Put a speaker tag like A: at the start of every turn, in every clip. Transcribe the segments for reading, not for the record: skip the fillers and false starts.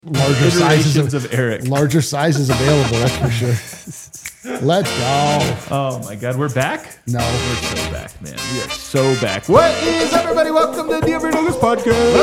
A: larger sizes
B: of Eric.
A: Larger sizes available, that's for sure. Let's go.
B: Oh my God, we're back?
A: No.
B: We're so back, man. We are so back. What is up, everybody? Welcome to the Every Nuggets Podcast.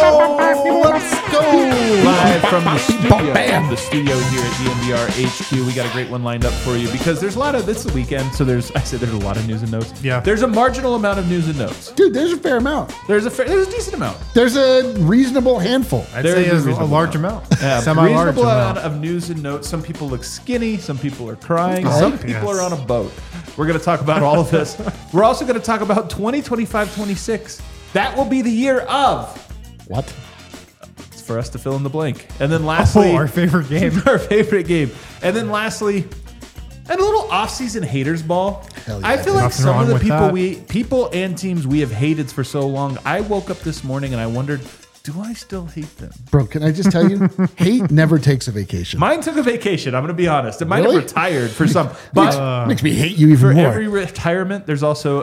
A: Let's go.
B: Live from the studio.
A: Bam.
B: The studio here at DNVR HQ. We got a great one lined up for you because there's a lot of, it's the weekend, so there's a lot of news and notes.
C: Yeah.
B: There's a marginal amount of news and notes.
A: Dude, there's a fair amount.
B: There's a decent amount.
A: There's a reasonable handful.
C: I'd
B: There
C: say
B: is a
C: it's a
B: reasonable
C: large amount.
B: Reasonable
C: Semi-large
B: amount
C: amount.
B: of news and notes. Some people look skinny. Some people are crying.
A: Okay.
B: Some people are on a boat. We're going to talk about all of this. We're also going to talk about 2025-26. That will be the year of.
A: What?
B: It's for us to fill in the blank. And then lastly,
C: our favorite game.
B: our favorite game. And then lastly, and a little off-season haters ball.
A: Hell yeah,
B: I feel
A: dude.
B: like
C: Nothing
B: some of
C: wrong
B: the
C: with
B: people and teams we have hated for so long. I woke up this morning and I wondered, do I still hate them?
A: Bro, can I just tell you? Hate never takes a vacation.
B: Mine took a vacation. I'm going to be honest. It might
A: Really?
B: have retired for some, but
A: Makes me hate you even
B: for
A: more.
B: every retirement, there's also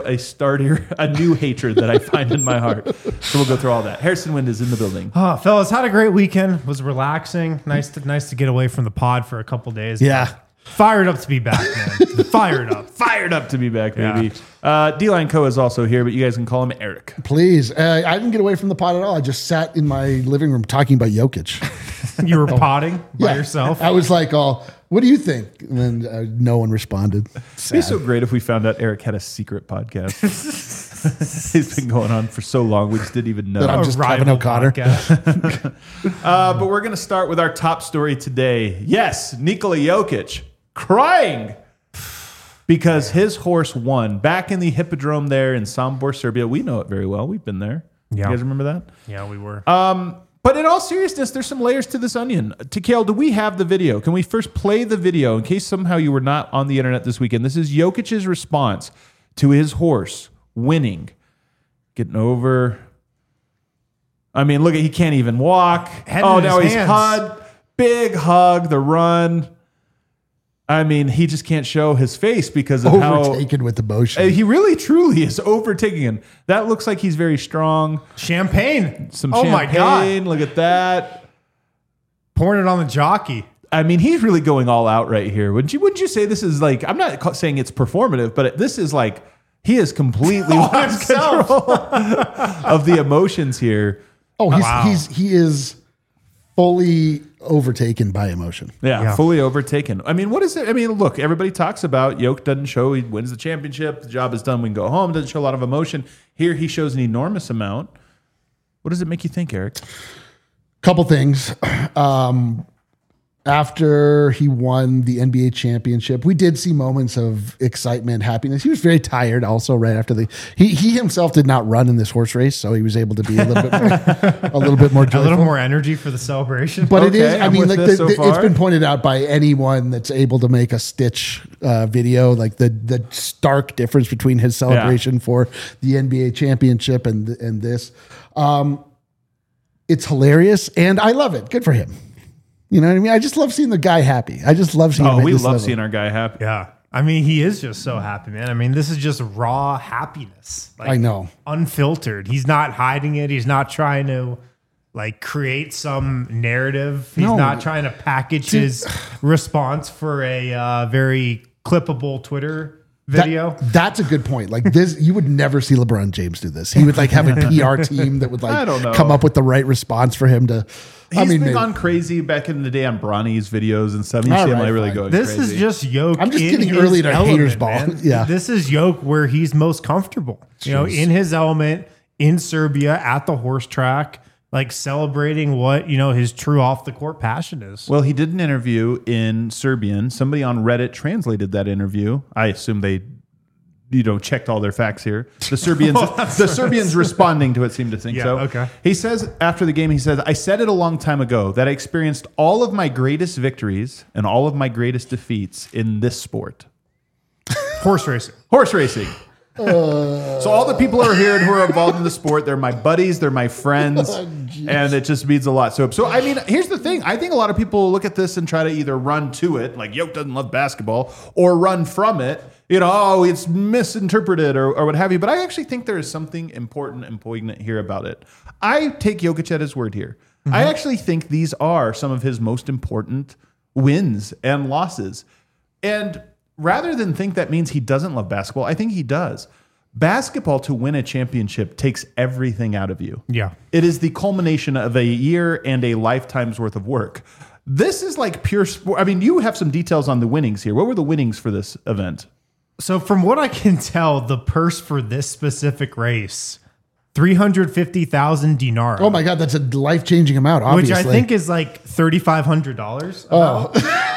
B: a new hatred that I find in my heart. So we'll go through all that. Harrison Wind is in the building.
C: Oh, fellas, had a great weekend. Was relaxing. Nice to get away from the pod for a couple days.
A: Yeah.
C: Fired up to be back, man. Fired up.
B: Fired up to be back, baby.
C: Yeah.
B: D-Line Co is also here, but you guys can call him Eric.
A: Please. I didn't get away from the pod at all. I just sat in my living room talking about Jokic.
C: You were potting by
A: Yeah.
C: yourself.
A: I was like, what do you think? And then no one responded.
B: It'd be so great if we found out Eric had a secret podcast. He's been going on for so long, we just didn't even know.
A: That I'm just Kevin
C: rival
A: O'Connor.
C: podcast.
B: But we're going to start with our top story today. Yes, Nikola Jokic crying because his horse won back in the Hippodrome there in Sombor, Serbia. We know it very well. We've been there.
C: Yeah.
B: You guys remember that?
C: Yeah, we were.
B: But in all seriousness, there's some layers to this onion. Tikale, do we have the video? Can we first play the video in case somehow you were not on the internet this weekend? This is Jokic's response to his horse winning. Getting over. I mean, look, he can't even walk.
C: Head
B: Oh,
C: in
B: now
C: his
B: he's
C: hands.
B: hugged. Big hug, the run. I mean, he just can't show his face because of how
A: Overtaken with emotion.
B: he really truly is overtaking him. That looks like he's very strong.
C: Champagne.
B: Some
C: oh
B: champagne.
C: my God.
B: Look at that.
C: Pouring it on the jockey.
B: I mean, he's really going all out right here. Wouldn't you say this is like, I'm not saying it's performative, but this is like, he is completely lost control of the emotions here.
A: Oh,
C: Wow.
A: he is fully overtaken by emotion.
B: Yeah, fully overtaken. I mean, what is it? I mean, look, everybody talks about Yoke doesn't show, he wins the championship, the job is done, we can go home, doesn't show a lot of emotion. Here he shows an enormous amount. What does it make you think, Eric?
A: Couple things. After he won the NBA championship, we did see moments of excitement, happiness. He was very tired also right after he himself did not run in this horse race, so he was able to be a little bit more
C: A
A: joyful.
C: little more energy for the celebration.
A: But it is,
B: Okay,
A: I
B: I'm
A: mean,
B: with
A: like
B: this so
A: it's
B: far.
A: been pointed out by anyone that's able to make a Stitch video, like the stark difference between his celebration for the NBA championship and this. It's hilarious, and I love it. Good for him. You know what I mean? I just love seeing the guy happy. I just love seeing him
B: Oh,
A: at
B: we
A: this
B: love
A: level.
B: seeing our guy happy.
C: Yeah. I mean, he is just so happy, man. I mean, this is just raw happiness. Like,
A: I know.
C: unfiltered. He's not hiding it. He's not trying to like create some narrative. He's
A: No.
C: not trying to package his response for a very clippable Twitter video.
A: That's a good point. Like this, you would never see LeBron James do this. He would like have a PR team that would
B: I don't know.
A: like come up with the right response for him to.
B: He's been
A: maybe-
B: gone crazy back in the day on Bronny's videos and stuff. You
A: All
B: see him
A: right,
B: like really
A: fine.
B: going
C: This
B: crazy.
C: is just Yoke.
A: I'm just
C: in
A: getting
C: his
A: early to
C: element,
A: haters ball.
C: man.
A: Yeah.
C: This is Yoke where he's most comfortable. You know, in his element, in Serbia, at the horse track, like celebrating what, you know, his true off the court passion is.
B: Well, he did an interview in Serbian. Somebody on Reddit translated that interview. I assume they, checked all their facts here. The Serbians responding to it seem to think
C: Yeah,
B: so.
C: okay.
B: He says after the game, he says, "I said it a long time ago that I experienced all of my greatest victories and all of my greatest defeats in this sport,
C: Horse racing.
B: horse racing." So all the people who are here and who are involved in the sport, they're my buddies, they're my friends, and it just means a lot. So I mean, here's the thing. I think a lot of people look at this and try to either run to it, like Yoke doesn't love basketball, or run from it. It's misinterpreted or what have you. But I actually think there is something important and poignant here about it. I take Jokic at his word here. I actually think these are some of his most important wins and losses. And rather than think that means he doesn't love basketball, I think he does. Basketball, to win a championship, takes everything out of you.
C: Yeah.
B: It is the culmination of a year and a lifetime's worth of work. This is like pure sport. I mean, you have some details on the winnings here. What were the winnings for this event?
C: So from what I can tell, the purse for this specific race, 350,000 dinar.
A: Oh my God, that's a life-changing amount, obviously.
C: Which I think is like $3,500.
A: Oh.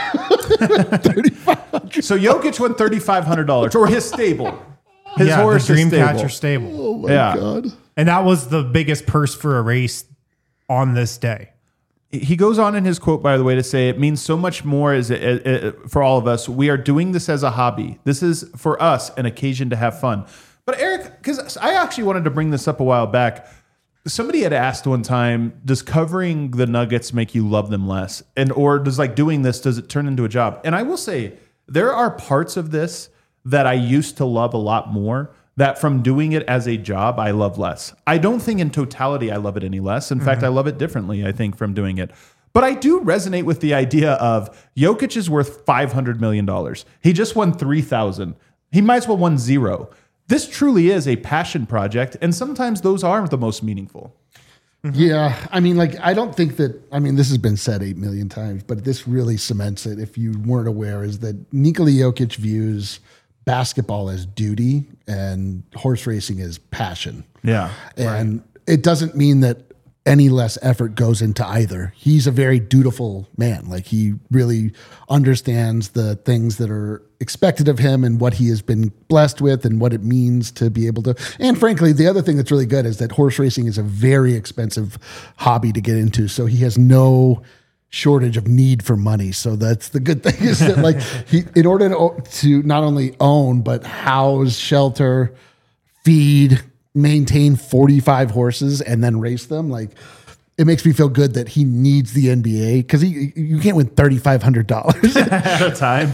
B: So Jokic won $3,500, or his stable. His horse,
C: the
B: his
C: Dreamcatcher stable.
A: Oh my God.
C: And that was the biggest purse for a race on this day.
B: He goes on in his quote, by the way, to say, it means so much more for all of us. We are doing this as a hobby. This is, for us, an occasion to have fun. But Eric, because I actually wanted to bring this up a while back. Somebody had asked one time, does covering the Nuggets make you love them less? Or does like doing this, does it turn into a job? And I will say, there are parts of this that I used to love a lot more, that from doing it as a job, I love less. I don't think in totality I love it any less. In fact, I love it differently, I think, from doing it. But I do resonate with the idea of Jokic is worth $500 million. He just won 3,000. He might as well won 0. This truly is a passion project, and sometimes those are the most meaningful.
A: Yeah, I mean, like, I don't think that, I mean, this has been said 8 million times, but this really cements it, if you weren't aware, is that Nikola Jokic views basketball as duty and horse racing as passion.
B: Yeah.
A: And it doesn't mean that any less effort goes into either. He's a very dutiful man. Like, he really understands the things that are expected of him and what he has been blessed with and what it means to be able to. And frankly, the other thing that's really good is that horse racing is a very expensive hobby to get into. So he has no shortage of need for money. So that's the good thing, is that like he, in order to not only own, but house, shelter, feed, maintain 45 horses and then race them, like, it makes me feel good that he needs the NBA, because you can't win $3,500
B: At a time.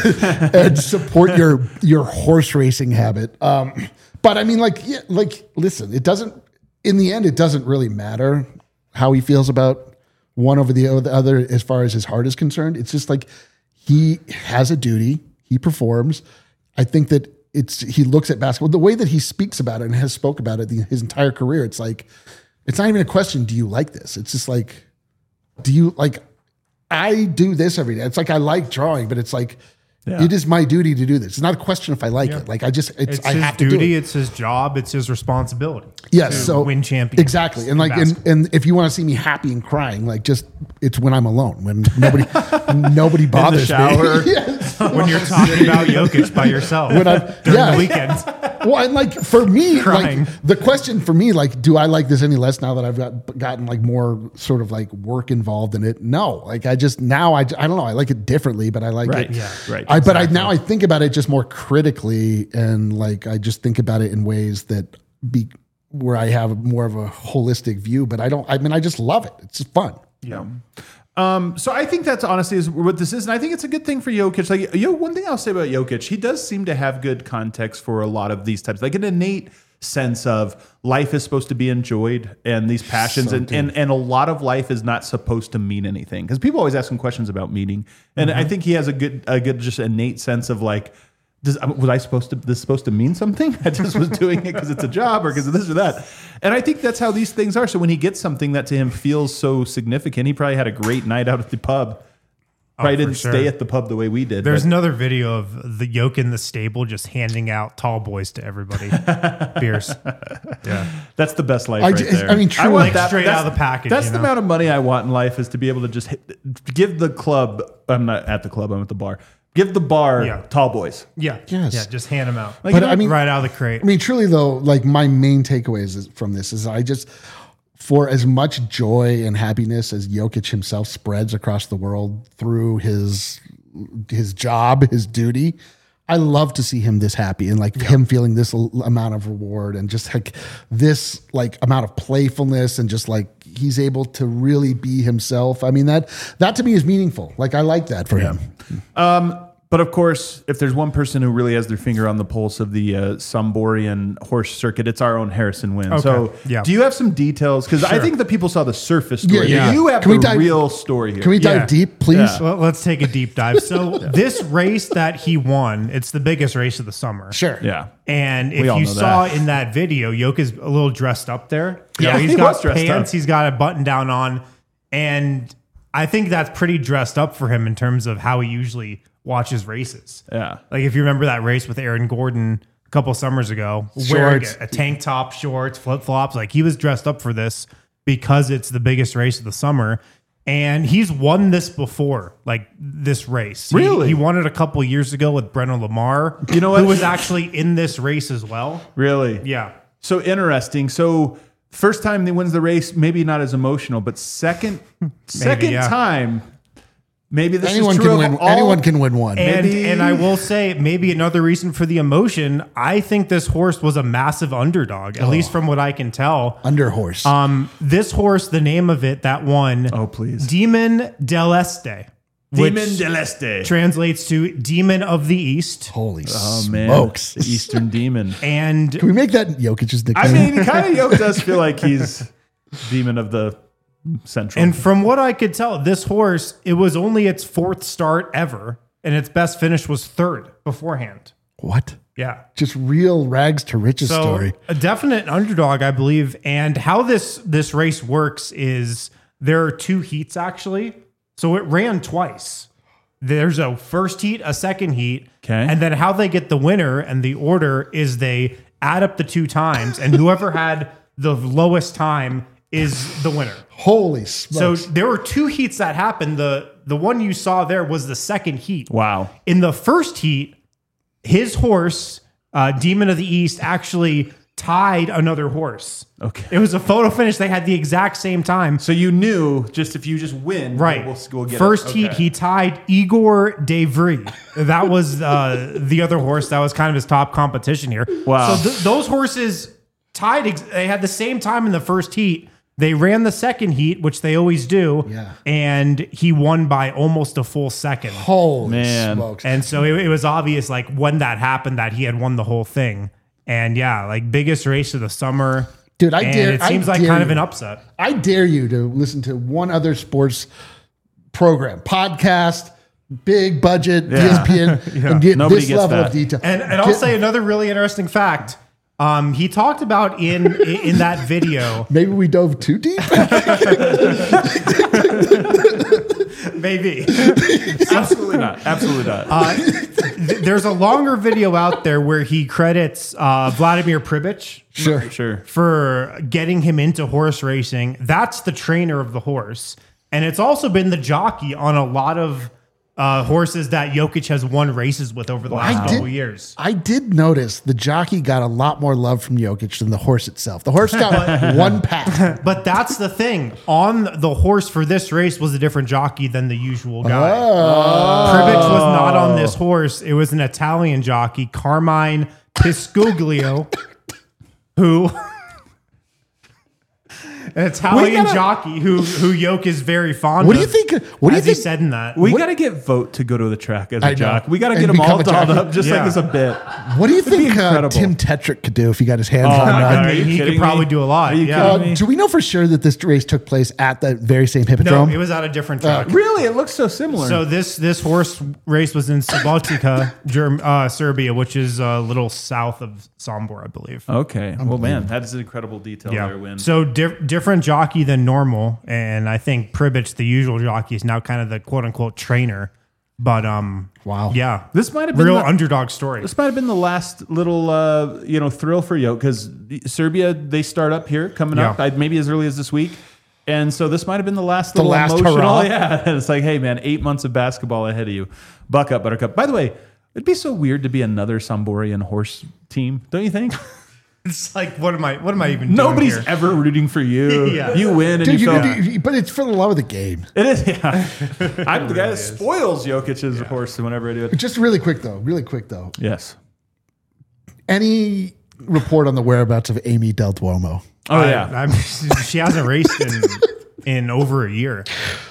A: and support your horse racing habit. But I mean, like, yeah, like, listen, it doesn't, in the end, it doesn't really matter how he feels about one over the other as far as his heart is concerned. It's just like, he has a duty, he performs. I think that he looks at basketball, the way that he speaks about it and has spoke about it his entire career. It's like, it's not even a question, do you like this? It's just like, do you like, I do this every day. It's like, I like drawing, but it's like, it is my duty to do this. It's not a question if I like it. Like, I just,
C: It's
A: I
C: his
A: have
C: duty,
A: to do it.
C: it's his job, it's his responsibility.
A: Yes,
C: to
A: so
C: win champions.
A: Exactly. And like,
C: basketball.
A: and if you want to see me happy and crying, like, just, it's when I'm alone, when nobody bothers
B: shower.
A: me. Yes.
C: when you're talking about Jokic by yourself
A: When
C: during
A: yeah.
C: the weekend.
A: Well, and like, for me,
C: Crying.
A: like, the question for me, like, do I like this any less now that I've gotten like more sort of like work involved in it? No, like, I just, now I don't know. I like it differently, but I like
B: Right.
A: it.
B: Yeah. Right.
A: But now I think about it just more critically, and like, I just think about it in ways that where I have more of a holistic view, but I just love it. It's just fun.
B: Yeah. So I think that's honestly is what this is, and I think it's a good thing for Jokic. Like, one thing I'll say about Jokic, he does seem to have good context for a lot of these types, like an innate sense of life is supposed to be enjoyed, and these passions, and a lot of life is not supposed to mean anything, because people always ask him questions about meaning, and I think he has a good just innate sense of like, was this supposed to mean something? I just was doing it because it's a job or because of this or that. And I think that's how these things are. So when he gets something that to him feels so significant, he probably had a great night out at the pub. Probably didn't stay at the pub the way we did.
C: There's another video of the yoke in the stable just handing out tall boys to everybody. Beers. Yeah.
B: That's the best life there.
A: I mean, truly,
C: want that straight out of the package.
B: That's the amount of money I want in life, is to be able to just give the club. I'm not at the club, I'm at the bar. Give the bar tall boys.
C: Yeah.
A: Yes.
C: Yeah. Just hand them out.
B: Like,
A: But I mean,
C: right out of the crate.
A: I mean, truly though, like, my main takeaways from this is I just, for as much joy and happiness as Jokic himself spreads across the world through his job, his duty, I love to see him this happy, and like him feeling this amount of reward, and just like this like amount of playfulness, and just like he's able to really be himself. I mean, that to me is meaningful. Like, I like that for him.
B: But of course, if there's one person who really has their finger on the pulse of the Somborian horse circuit, it's our own Harrison Wynn.
C: Okay.
B: So,
C: Yeah.
B: do you have some details? Because I think the people saw the surface story.
A: Yeah.
B: You have
A: Can we
B: the
A: dive-
B: real story here.
A: Can we dive
C: Yeah.
A: deep, please?
B: Yeah.
C: Well, let's take a deep dive. So this race that he won, it's the biggest race of the summer.
A: Sure.
B: Yeah.
C: And
B: We
C: if
B: all
C: you
B: know
C: saw
B: that.
C: in that video, Yoke is a little dressed up there.
B: Yeah,
C: he's
B: he
C: got
B: was dressed
C: pants,
B: up.
C: he's got a button down on, and I think that's pretty dressed up for him in terms of how he usually watches races.
B: Yeah.
C: Like if you remember that race with Aaron Gordon a couple summers ago, wearing
A: Shorts.
C: a tank top, shorts, flip flops, like he was dressed up for this because it's the biggest race of the summer. And he's won this before, like this race.
B: Really?
C: He won it a couple years ago with Brennan Lamar,
B: You know what?
C: who was actually in this race as well.
B: Really?
C: Yeah.
B: So interesting. So first time he wins the race, maybe not as emotional, but second
C: yeah.
B: time, maybe this
A: Anyone
B: is true
A: can
B: of
A: win.
B: all-
A: Anyone can win one.
C: And I will say, maybe another reason for the emotion, I think this horse was a massive underdog, at least from what I can tell.
A: Under horse.
C: This horse, the name of it that won,
B: Oh, please.
C: Demon del Este,
B: Demon
C: which
B: del Este.
C: translates to Demon of the East.
A: Holy
B: Oh, man.
A: smokes.
B: The Eastern Demon.
C: And
A: Can we make that Jokic's nickname?
B: I mean, kind of Yoke does feel like he's Demon of the Central.
C: And from what I could tell, this horse, it was only its fourth start ever, and its best finish was third beforehand.
A: What?
C: Yeah.
A: Just real rags to riches
C: So
A: story.
C: a definite underdog, I believe. And how this race works is there are two heats actually. So it ran twice. There's a first heat, a second heat.
B: Okay.
C: And then how they get the winner and the order is they add up the two times, and whoever had the lowest time is the winner.
A: Holy
C: So
A: smokes.
C: there were two heats that happened. The one you saw there was the second heat.
B: wow.
C: In the first heat, his horse, Demon of the East, actually tied another horse.
B: Okay.
C: It was a photo finish. They had the exact same time.
B: So you knew just if you just win,
C: Right.
B: we'll get
C: First
B: it.
C: heat,
B: Okay.
C: he tied Igor Devry. That was the other horse. That was kind of his top competition here.
B: Wow.
C: So those horses tied. They had the same time in the first heat. They ran the second heat, which they always do.
A: Yeah.
C: And he won by almost a full second.
A: Holy
B: Man.
A: smokes.
C: And so it was obvious, like when that happened, that he had won the whole thing. And yeah, like biggest race of the summer.
A: Dude, I
C: And
A: dare-
C: It
A: I
C: seems like
A: dare
C: kind of
A: you.
C: an upset.
A: I dare you to listen to one other sports program, podcast, big budget, E
B: Yeah.
A: ESPN, and get
B: Nobody
A: this
B: gets
A: level
B: that.
A: of detail.
C: And I'll say another really interesting fact. He talked about in that video,
A: Maybe we dove too deep.
C: maybe.
B: Absolutely not. Absolutely not.
C: There's a longer video out there where he credits Vladimir Pribich
B: Sure.
C: for getting him into horse racing. That's the trainer of the horse. And it's also been the jockey on a lot of horses that Jokic has won races with over the last couple years.
A: I did notice the jockey got a lot more love from Jokic than the horse itself. The horse got one pat.
C: But that's the thing. On the horse for this race was a different jockey than the usual guy. Pribich was not on this horse. It was an Italian jockey, Carmine Piscuglio, who... An Italian jockey who Yoke is very fond
A: What
C: of.
A: do you think? What do you
C: as he
A: think?
C: said in that.
B: We got to get Vote to go to the track as
A: I
B: a
A: know.
B: jock. We got to
A: And
B: get them all
A: become a
B: dolled
A: jockey.
B: up just
C: Yeah.
B: like as a bit.
A: What do you
B: be
A: think
B: incredible.
A: Tim Tetrick could do if he got his hands
B: Oh
A: on
B: my
A: one?
B: God. Are
C: I
B: you
C: mean, he
B: kidding
C: could probably
B: me?
C: do a lot.
B: Are you
C: Yeah.
B: kidding me?
A: Do we know for sure that this race took place at the very same
C: No,
A: hippodrome?
C: it was at a different track.
B: Really? It looks so similar.
C: So this horse race was in Subotica, Serbia, which is a little south of Sombor, I believe.
B: okay. Well, man, that is an incredible detail there, Win.
C: So different jockey than normal, and I think Pribich, the usual jockey, is now kind of the quote unquote trainer. But
A: Wow.
C: yeah,
B: This might have been
C: real
B: the-
C: underdog story.
B: This might have been the last little, thrill for Yoke because Serbia, they start up here coming up
C: Yeah.
B: maybe as early as this week. And so this might have been the last
A: The
B: little
A: last
B: emotional.
A: hurrah.
B: Yeah. And it's like, hey, man, 8 months of basketball ahead of you. Buck up, Buttercup. By the way, it'd be so weird to be another Somborian horse team, don't you think?
C: It's like, what am I even doing
B: Nobody's
C: here?
B: ever rooting for you.
C: Yeah.
B: You win and
A: Dude,
B: you
A: you
B: feel.
A: could do, but it's for the love of the game.
B: It is, yeah. I'm the guy that spoils Jokic's horse whenever I do it.
A: Just really quick though.
B: Yes.
A: Any report on the whereabouts of Amy Del Duomo?
B: Oh, yeah.
C: she hasn't raced in over a year.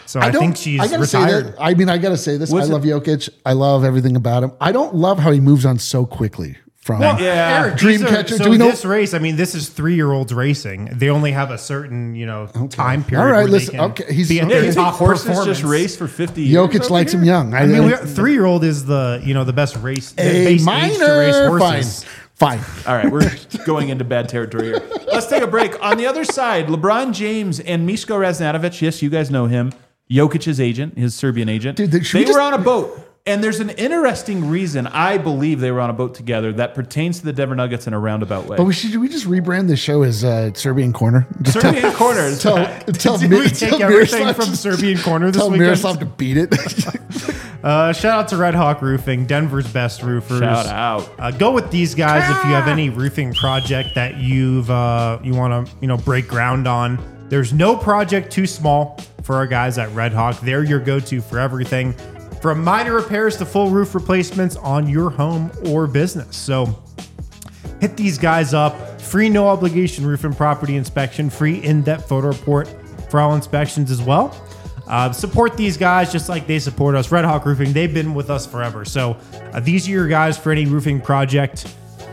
C: So I think she's
A: I gotta
C: retired.
A: Say that, I mean, I got to say this. I
B: Was
A: love Jokic. I love everything about him. I don't love how he moves on so quickly from
B: Yeah.
C: Eric,
A: Dreamcatcher.
C: So
A: Do we know?
C: this race? I mean, this is 3-year-olds racing. They only have a certain, time period.
A: All right,
C: where
A: listen,
C: They can
A: okay, he's-
C: be at
A: okay.
B: Yeah,
C: their
B: you think
C: top
B: horses
C: performance.
B: just race for 50 years?
A: Jokic
B: over
A: likes
B: here?
A: him young.
C: I mean, 3-year-old is the best race. The
A: a
C: base age to race
A: minor.
C: horses.
A: Fine.
B: All right, we're going into bad territory here. Let's take a break. On the other side, LeBron James and Miško Raznatovic. Yes, you guys know him. Jokic's agent, his Serbian agent.
A: Dude, should we
B: they were
A: just-
B: on a boat. And there's an interesting reason I believe they were on a boat together that pertains to the Denver Nuggets in a roundabout way.
A: But should we just rebrand the show as Serbian Corner? Just
B: Serbian corners.
A: tell
C: Did we take everything from Serbian Corner this
A: tell
C: weekend?
A: Miroslav to beat it.
C: Shout out to Red Hawk Roofing, Denver's best roofers.
B: Shout out.
C: Go with these guys if you have any roofing project that you want to break ground on. There's no project too small for our guys at Red Hawk. They're your go-to for everything, from minor repairs to full roof replacements on your home or business. So hit these guys up. Free no obligation roof and property inspection. Free in-depth photo report for all inspections as well. Support these guys just like they support us. Red Hawk Roofing, they've been with us forever. So these are your guys for any roofing project.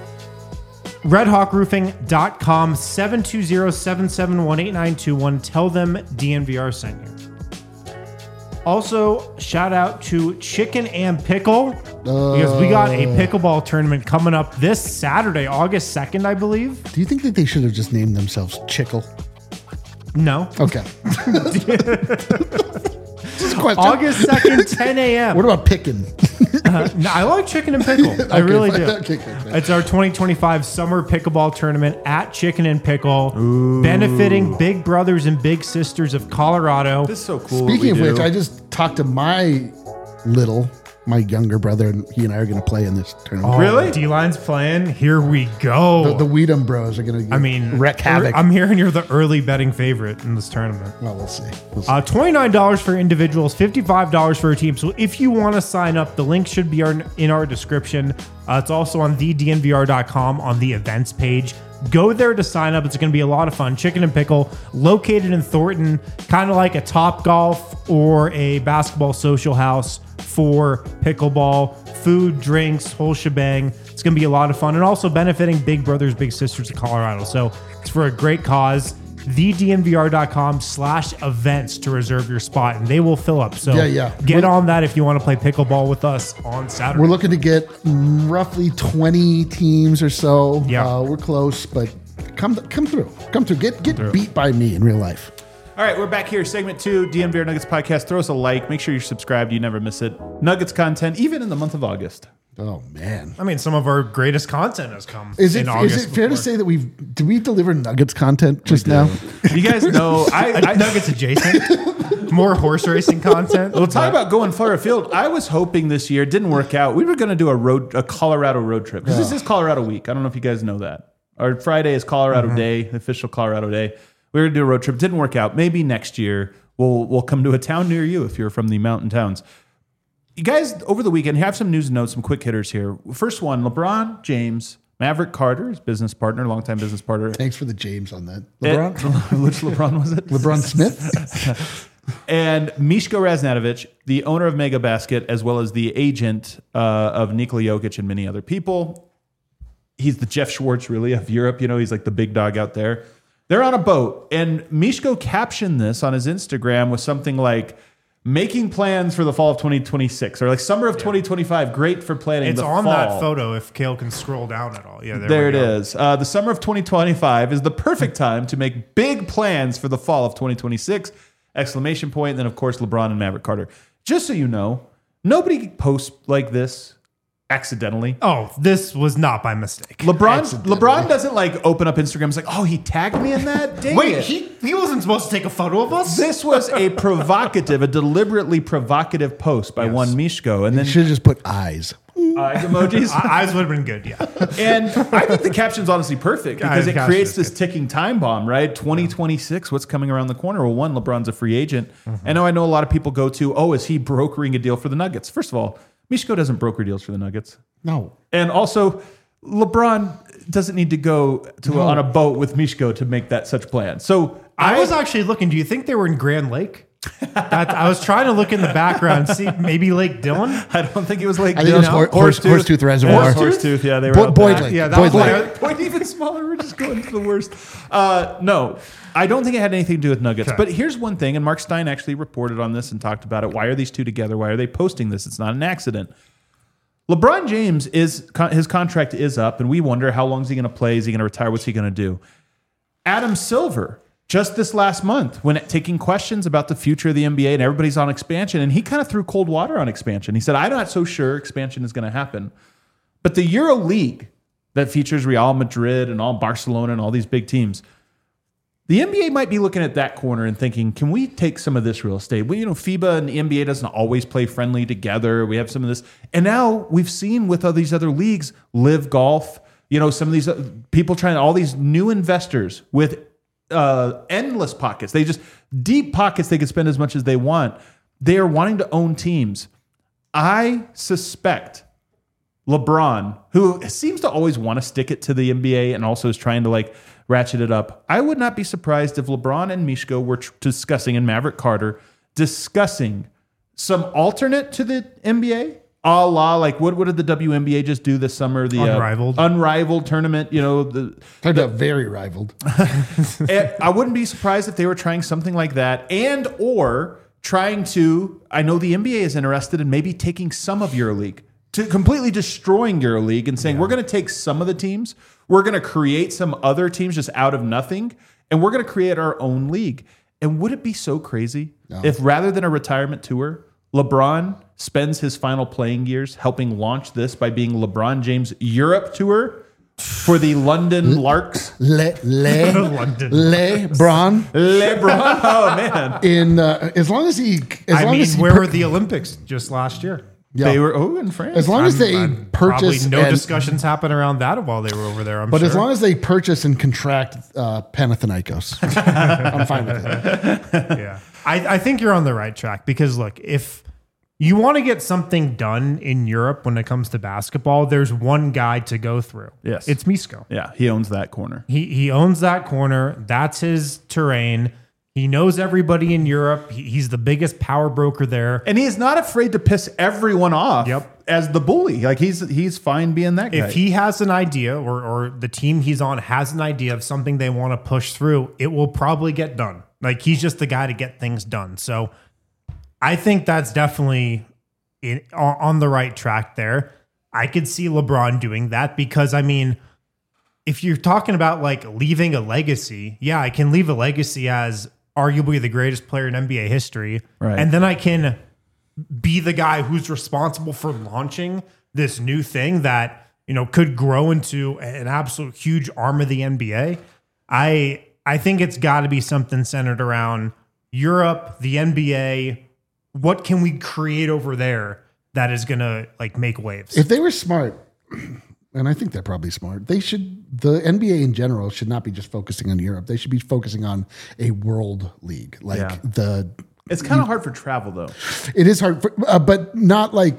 C: RedHawkRoofing.com, 720-771-8921. Tell them DNVR sent you. Also, shout out to Chicken and Pickle because we got a pickleball tournament coming up this Saturday, August 2nd, I believe.
A: Do you think that they should have just named themselves Chickle?
C: No.
A: Okay. Just a question.
C: August 2nd, 10 a.m.
A: What about Pickin'?
C: No, I like chicken and pickle. I really do.
A: Okay.
C: It's our 2025 summer pickleball tournament at Chicken and Pickle, benefiting big brothers and big sisters of Colorado.
B: This is so cool.
A: Speaking of
B: what we
A: which,
B: do.
A: I just talked to my younger brother, and he and I are going to play in this tournament.
B: Really?
C: D-Line's playing. Here we go.
A: The Weedham Bros are going to wreak havoc.
C: I'm hearing you're the early betting favorite in this tournament.
A: Well, we'll see.
C: $29 for individuals, $55 for a team. So if you want to sign up, the link should be in our description. It's also on thednvr.com on the events page. Go there to sign up. It's going to be a lot of fun. Chicken and Pickle, located in Thornton, kind of like a Top Golf or a basketball social house for pickleball, food, drinks, whole shebang. It's going to be a lot of fun and also benefiting Big Brothers, Big Sisters of Colorado. So it's for a great cause. thednvr.com/events to reserve your spot, and they will fill up. So get on that if you want to play pickleball with us on Saturday.
A: We're looking to get roughly 20 teams or so.
C: Yeah.
A: We're close, but come through. Come through. Get beat by me in real life.
B: All right, we're back here. Segment 2, DNVR Nuggets podcast. Throw us a like. Make sure you're subscribed. You never miss it. Nuggets content, even in the month of August.
A: Oh, man.
C: I mean, some of our greatest content has come
A: Is
C: in
A: it
C: August.
A: fair to say that did we deliver Nuggets content just now?
B: You guys know, I
C: Nuggets adjacent, more horse racing content.
B: We'll talk about going far afield. I was hoping this year, it didn't work out. We were going to do a Colorado road trip because this is Colorado week. I don't know if you guys know that. Our Friday is Colorado Day, the official Colorado Day. We were going to do a road trip. Didn't work out. Maybe next year we'll come to a town near you if you're from the mountain towns. You guys, over the weekend, have some news and notes, some quick hitters here. First one, LeBron James, Maverick Carter, his business partner, longtime business partner.
A: Thanks for the James on that.
B: LeBron?
A: LeBron?
B: Which LeBron was it?
A: LeBron Smith?
B: And Miško Raznatovic, the owner of Mega Basket, as well as the agent of Nikola Jokic and many other people. He's the Jeff Schwartz, really, of Europe. You know, he's like the big dog out there. They're on a boat, and Miško captioned this on his Instagram with something like, making plans for the fall of 2026, or like summer of 2025. Great for planning.
C: It's
B: the
C: on
B: fall.
C: that photo if Kale can scroll down at all. Yeah,
B: There it is. The summer of 2025 is the perfect time to make big plans for the fall of 2026! Exclamation point. And then, of course, LeBron and Maverick Carter. Just so you know, nobody posts like this accidentally.
C: Oh, this was not by mistake.
B: LeBron doesn't like open up Instagram. It's like, oh, he tagged me in that? Dang
C: Wait,
B: it.
C: he wasn't supposed to take a photo of us?
B: This was a deliberately provocative post by one Miško. And
A: You
B: then
A: should have just put eyes.
B: eyes emojis.
C: Eyes would have been good, yeah.
B: And I think the caption's honestly perfect because it
C: caption
B: creates
C: is
B: this
C: good.
B: ticking time bomb, right? 2026, what's coming around the corner? Well, one, LeBron's a free agent. And I know a lot of people go to, oh, is he brokering a deal for the Nuggets? First of all, Miško doesn't broker deals for the Nuggets.
A: No.
B: And also, LeBron doesn't need to go to on a boat with Miško to make that such plan. So
C: I was actually looking. Do you think they were in Grand Lake? I was trying to look in the background, see maybe Lake Dillon.
B: I don't think it was Lake
A: I think it was Horsetooth Reservoir.
B: Horsetooth, yeah, they were up
A: Boyd
B: there.
A: Lake.
C: Yeah, that
A: Boyd
C: was
A: Lake.
C: like-
B: Point even smaller. We're just going to the worst. No, I don't think it had anything to do with Nuggets.
C: Okay.
B: But here's one thing, and Mark Stein actually reported on this and talked about it. Why are these two together? Why are they posting this? It's not an accident. LeBron James his contract is up, and we wonder how long is he going to play? Is he going to retire? What's he going to do? Adam Silver, just this last month, when taking questions about the future of the NBA and everybody's on expansion, and he kind of threw cold water on expansion. He said, I'm not so sure expansion is going to happen. But the Euro League that features Real Madrid and all Barcelona and all these big teams, the NBA might be looking at that corner and thinking, can we take some of this real estate? We, FIBA and the NBA doesn't always play friendly together. We have some of this. And now we've seen with all these other leagues, Live Golf, some of these people trying, all these new investors with endless pockets. They just, deep pockets, they can spend as much as they want. They are wanting to own teams. I suspect LeBron, who seems to always want to stick it to the NBA and also is trying to ratchet it up. I would not be surprised if LeBron and Mishko were discussing, and Maverick Carter, discussing some alternate to the NBA, a la, what did the WNBA just do this summer? The Unrivaled tournament,
A: Talking about very rivaled.
B: I wouldn't be surprised if they were trying something like that, and or trying to, I know the NBA is interested in maybe taking some of EuroLeague, to completely destroying EuroLeague and saying, we're going to take some of the teams, we're going to create some other teams just out of nothing, and we're going to create our own league. And would it be so crazy if rather than a retirement tour, LeBron spends his final playing years helping launch this by being LeBron James Europe Tour for the London Larks?
C: London.
A: LeBron.
B: Oh, man.
A: In as long as he,
C: where were the Olympics just last year?
A: Yeah.
B: They were in France.
A: As long as they purchase,
C: probably no discussions happen around that while they were over there.
A: But as long as they purchase and contract Panathinaikos, I'm fine with it.
C: Yeah, I think you're on the right track because look, if you want to get something done in Europe when it comes to basketball, there's one guy to go through.
B: Yes,
C: it's Mishko.
B: Yeah, he owns that corner.
C: He owns that corner. That's his terrain. He knows everybody in Europe. He's the biggest power broker there.
B: And he is not afraid to piss everyone off as the bully. He's fine being that guy.
C: If he has an idea or the team he's on has an idea of something they want to push through, it will probably get done. He's just the guy to get things done. So I think that's definitely on the right track there. I could see LeBron doing that because, if you're talking about leaving a legacy, I can leave a legacy as arguably the greatest player in NBA history.
B: Right.
C: And then I can be the guy who's responsible for launching this new thing that, could grow into an absolute huge arm of the NBA. I think it's got to be something centered around Europe, the NBA. What can we create over there that is going to make waves?
A: If they were smart, and I think they're probably smart, the NBA in general should not be just focusing on Europe. They should be focusing on a world league.
B: It's kind of hard for travel though.
A: It is hard, but not not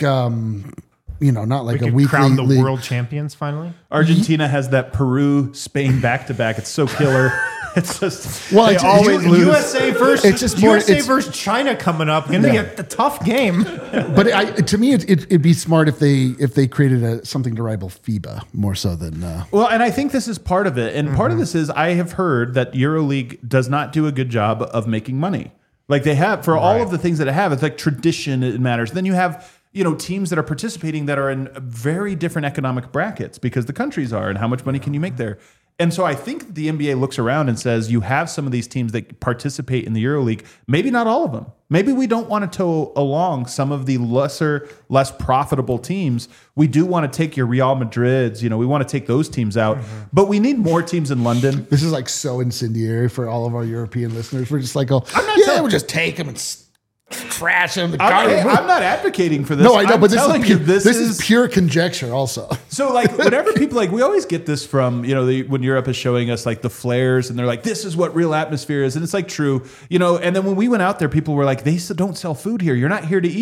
A: like a weekly
C: crown the
A: league.
C: world champions finally.
B: Argentina has that Peru-Spain back-to-back. It's so killer. It's just
A: they
B: always lose.
C: USA versus
A: It's just more-
C: USA
A: it's-
C: versus China coming up. Going to be a tough game.
A: But to me, it'd be smart if they created something to rival FIBA more so than.
B: Well, and I think this is part of it. And part of this is I have heard that EuroLeague does not do a good job of making money. They have for all of the things that it have. It's tradition. It matters. Then you have teams that are participating that are in very different economic brackets because the countries are, and how much money can you make there? And so I think the NBA looks around and says, you have some of these teams that participate in the EuroLeague, maybe not all of them. Maybe we don't want to tow along some of the less profitable teams. We do want to take your Real Madrids, we want to take those teams out, but we need more teams in London.
A: This is so incendiary for all of our European listeners. We're just we'll just take them and trash them.
B: I'm not advocating for this.
A: No, I know, but
B: this
A: is pure conjecture also.
B: So whenever people we always get this from, when Europe is showing us the flares and they're like, this is what real atmosphere is. And it's true, and then when we went out there, people were like, they don't sell food here. You're not here to eat.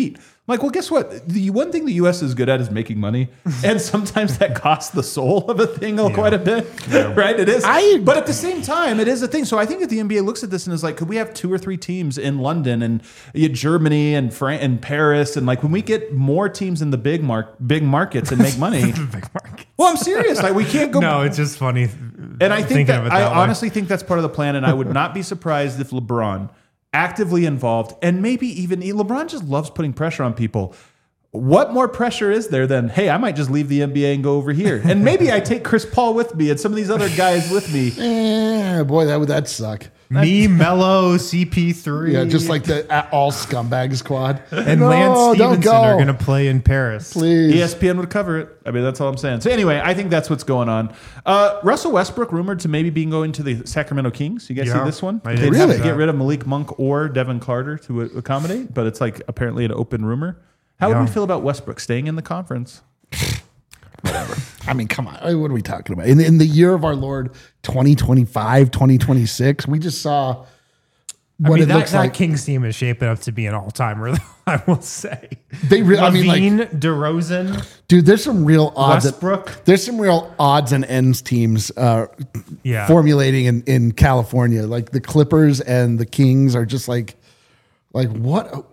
B: I'm like, well, guess what? The one thing the U.S. is good at is making money, and sometimes that costs the soul of a thing quite a bit, right? It is, but at the same time, it is a thing. So I think that the NBA looks at this and is like, could we have 2 or 3 teams in London and Germany and and Paris, and like when we get more teams in the big markets and make money.
C: Big market.
B: Well, I'm serious. Like we can't go.
C: No, it's just funny.
B: And I think that I
C: way.
B: honestly think that's part of the plan, and I would not be surprised if LeBron actively involved, and maybe even LeBron just loves putting pressure on people. What more pressure is there than, hey, I might just leave the NBA and go over here, and maybe I take Chris Paul with me and some of these other guys with me.
A: Boy, that suck.
C: Me, Melo, CP3.
A: Yeah, just like the all scumbag squad.
C: And Lance Stevenson are going to play in Paris.
A: Please.
B: ESPN would cover it. I mean, that's all I'm saying. So anyway, I think that's what's going on. Russell Westbrook rumored to maybe being going to the Sacramento Kings. You guys see this one?
C: They'd
B: have
A: Really?
B: to get rid of Malik Monk or Devin Carter to accommodate, but it's like apparently an open rumor. How would we feel about Westbrook staying in the conference?
A: Whatever. I mean, come on. What are we talking about? In the year of our Lord, 2025, 2026, we just saw what it looks
C: that
A: like.
C: Kings team is shaping up to be an all-timer, I will say.
A: They really, I mean,
C: Levine,
A: like,
C: DeRozan,
A: dude, there's some real odds.
C: Westbrook.
A: There's some real odds and ends teams formulating in California. Like the Clippers and the Kings are just like what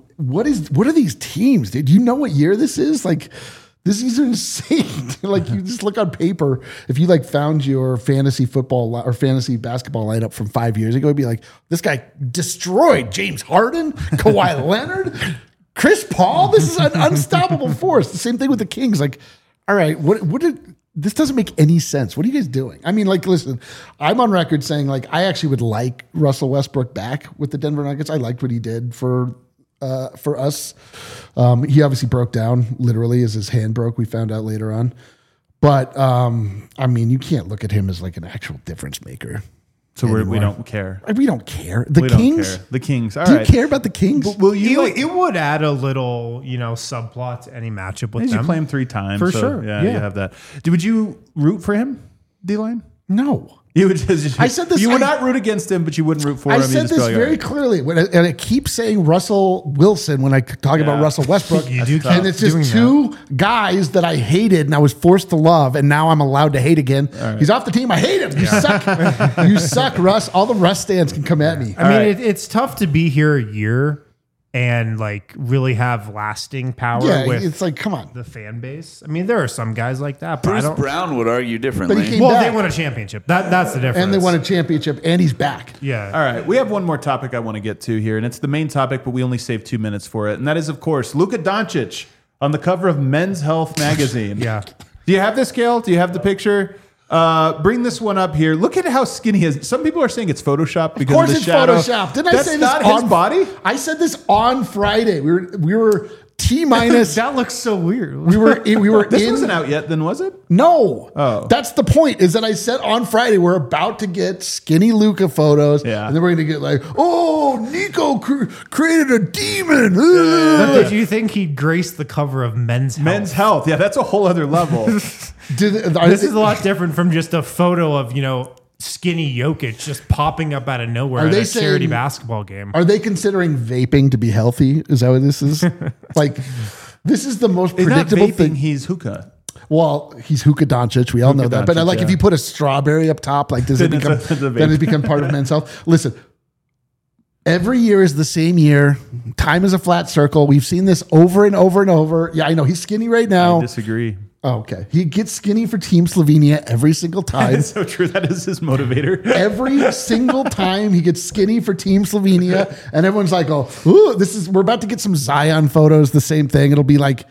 A: are these teams, dude? Do you know what year this is? Like, these are insane. Like, you just look on paper. If you like found your fantasy football or fantasy basketball lineup from 5 years ago, it'd be like, this guy destroyed James Harden, Kawhi Leonard, Chris Paul. This is an unstoppable force. The same thing with the Kings. Like, all right, this doesn't make any sense. What are you guys doing? I mean, like, listen, I'm on record saying, like, I actually would like Russell Westbrook back with the Denver Nuggets. I liked what he did for us. He obviously broke down literally as his hand broke. We found out later on. But, I mean, you can't look at him as like an actual difference maker.
B: So we don't care.
A: We don't care. The
B: We
A: Kings?
B: don't care. The Kings. All
A: Do
B: right.
A: you care about the Kings?
B: Will you?
C: It would add a little, subplot to any matchup with
B: You
C: them.
B: play him 3 times.
C: For
B: so,
C: sure.
B: Yeah,
C: Yeah.
B: you have that. Would you root for him, D-Line?
A: No.
B: You would just,
A: I said this-
B: You would not root against him, but you wouldn't root for
A: I
B: him.
A: said this very clearly, and I keep saying Russell Wilson when I talk about Russell Westbrook.
C: You do keep
A: and it's just
C: doing
A: two guys that I hated and I was forced to love, and now I'm allowed to hate again. He's off the team. I hate him. You suck. You suck, Russ. All the Russ stands can come at me.
C: I mean, it's tough to be here a year and like really have lasting power
A: Yeah,
C: with
A: it's like, come on.
C: the fan base. I mean, there are some guys like that, but I
D: Bruce
C: don't.
D: Brown would argue differently.
A: But he came
C: Well,
A: back.
C: they won a championship. That's the difference.
A: And they won a championship, and he's back.
C: Yeah.
B: All right, we have one more topic I want to get to here, and it's the main topic, but we only saved 2 minutes for it, and that is, of course, Luka Doncic on the cover of Men's Health magazine.
C: Yeah.
B: Do you have this, Gail? Do you have the picture? Bring this one up here. Look at how skinny he is. Some people are saying it's Photoshopped because
A: Of course
B: of the
A: it's
B: shadow.
A: Photoshop. Didn't I
B: That's
A: say this
B: not
A: on
B: his body?
A: I said this on Friday. We were T minus.
C: That looks so weird.
A: We were
B: This
A: in.
B: wasn't out yet, then was it?
A: No.
B: Oh.
A: That's the point, is that I said on Friday, we're about to get skinny Luka photos.
B: Yeah.
A: And then we're going to get like, oh, Nico created a demon.
C: But did you think he'd grace the cover of Men's Health?
B: Men's Health. Yeah, that's a whole other level.
C: This is a lot different from just a photo of, skinny Jokic just popping up out of nowhere
A: Are
C: at
A: they
C: a charity
A: saying-
C: basketball game.
A: Are they considering vaping to be healthy? Is that what this is? Like, this is the most
B: He's not
A: predictable
B: vaping,
A: thing.
B: he's hookah.
A: Well, he's Luka Doncic. We all know that. But
B: Doncic,
A: like, if
B: yeah.
A: you put a strawberry up top, like, does it
B: Then
A: become
B: it's a vape.
A: then it become part of Men's Health? Listen, every year is the same year. Time is a flat circle. We've seen this over and over and over. Yeah, I know he's skinny right
B: I
A: now.
B: disagree.
A: Oh, okay. He gets skinny for Team Slovenia every single time.
B: It's so true. That is his motivator.
A: Every single time he gets skinny for Team Slovenia, and everyone's like, "Oh, ooh, we're about to get some Zion photos." The same thing. It'll be like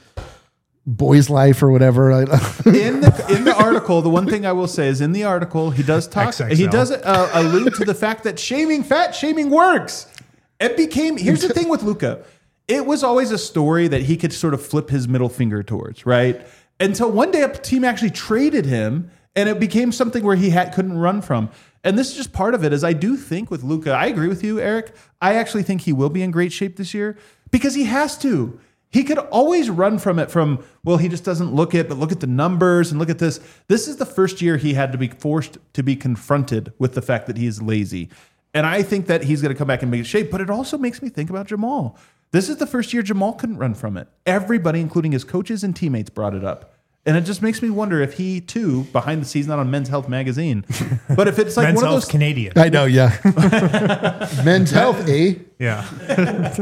A: Boys Life or whatever.
B: In the article, the one thing I will say is in the article he does talk.
C: XXL.
B: He does allude to the fact that fat shaming works. It became. Here's the thing with Luka. It was always a story that he could sort of flip his middle finger towards, right? Until one day a team actually traded him, and it became something where he couldn't run from. And this is just part of it. Is I do think with Luka, I agree with you, Eric. I actually think he will be in great shape this year because he has to. He could always run from it well, he just doesn't look it, but look at the numbers and look at this. This is the first year he had to be forced to be confronted with the fact that he is lazy. And I think that he's going to come back and make shape, but it also makes me think about Jamal. This is the first year Jamal couldn't run from it. Everybody, including his coaches and teammates, brought it up. And it just makes me wonder if he, too, behind the scenes, not on Men's Health magazine, but if it's like
C: Men's
B: one of
C: Health
B: those...
C: Canadian.
A: I know, yeah. Men's Health, eh?
C: Yeah.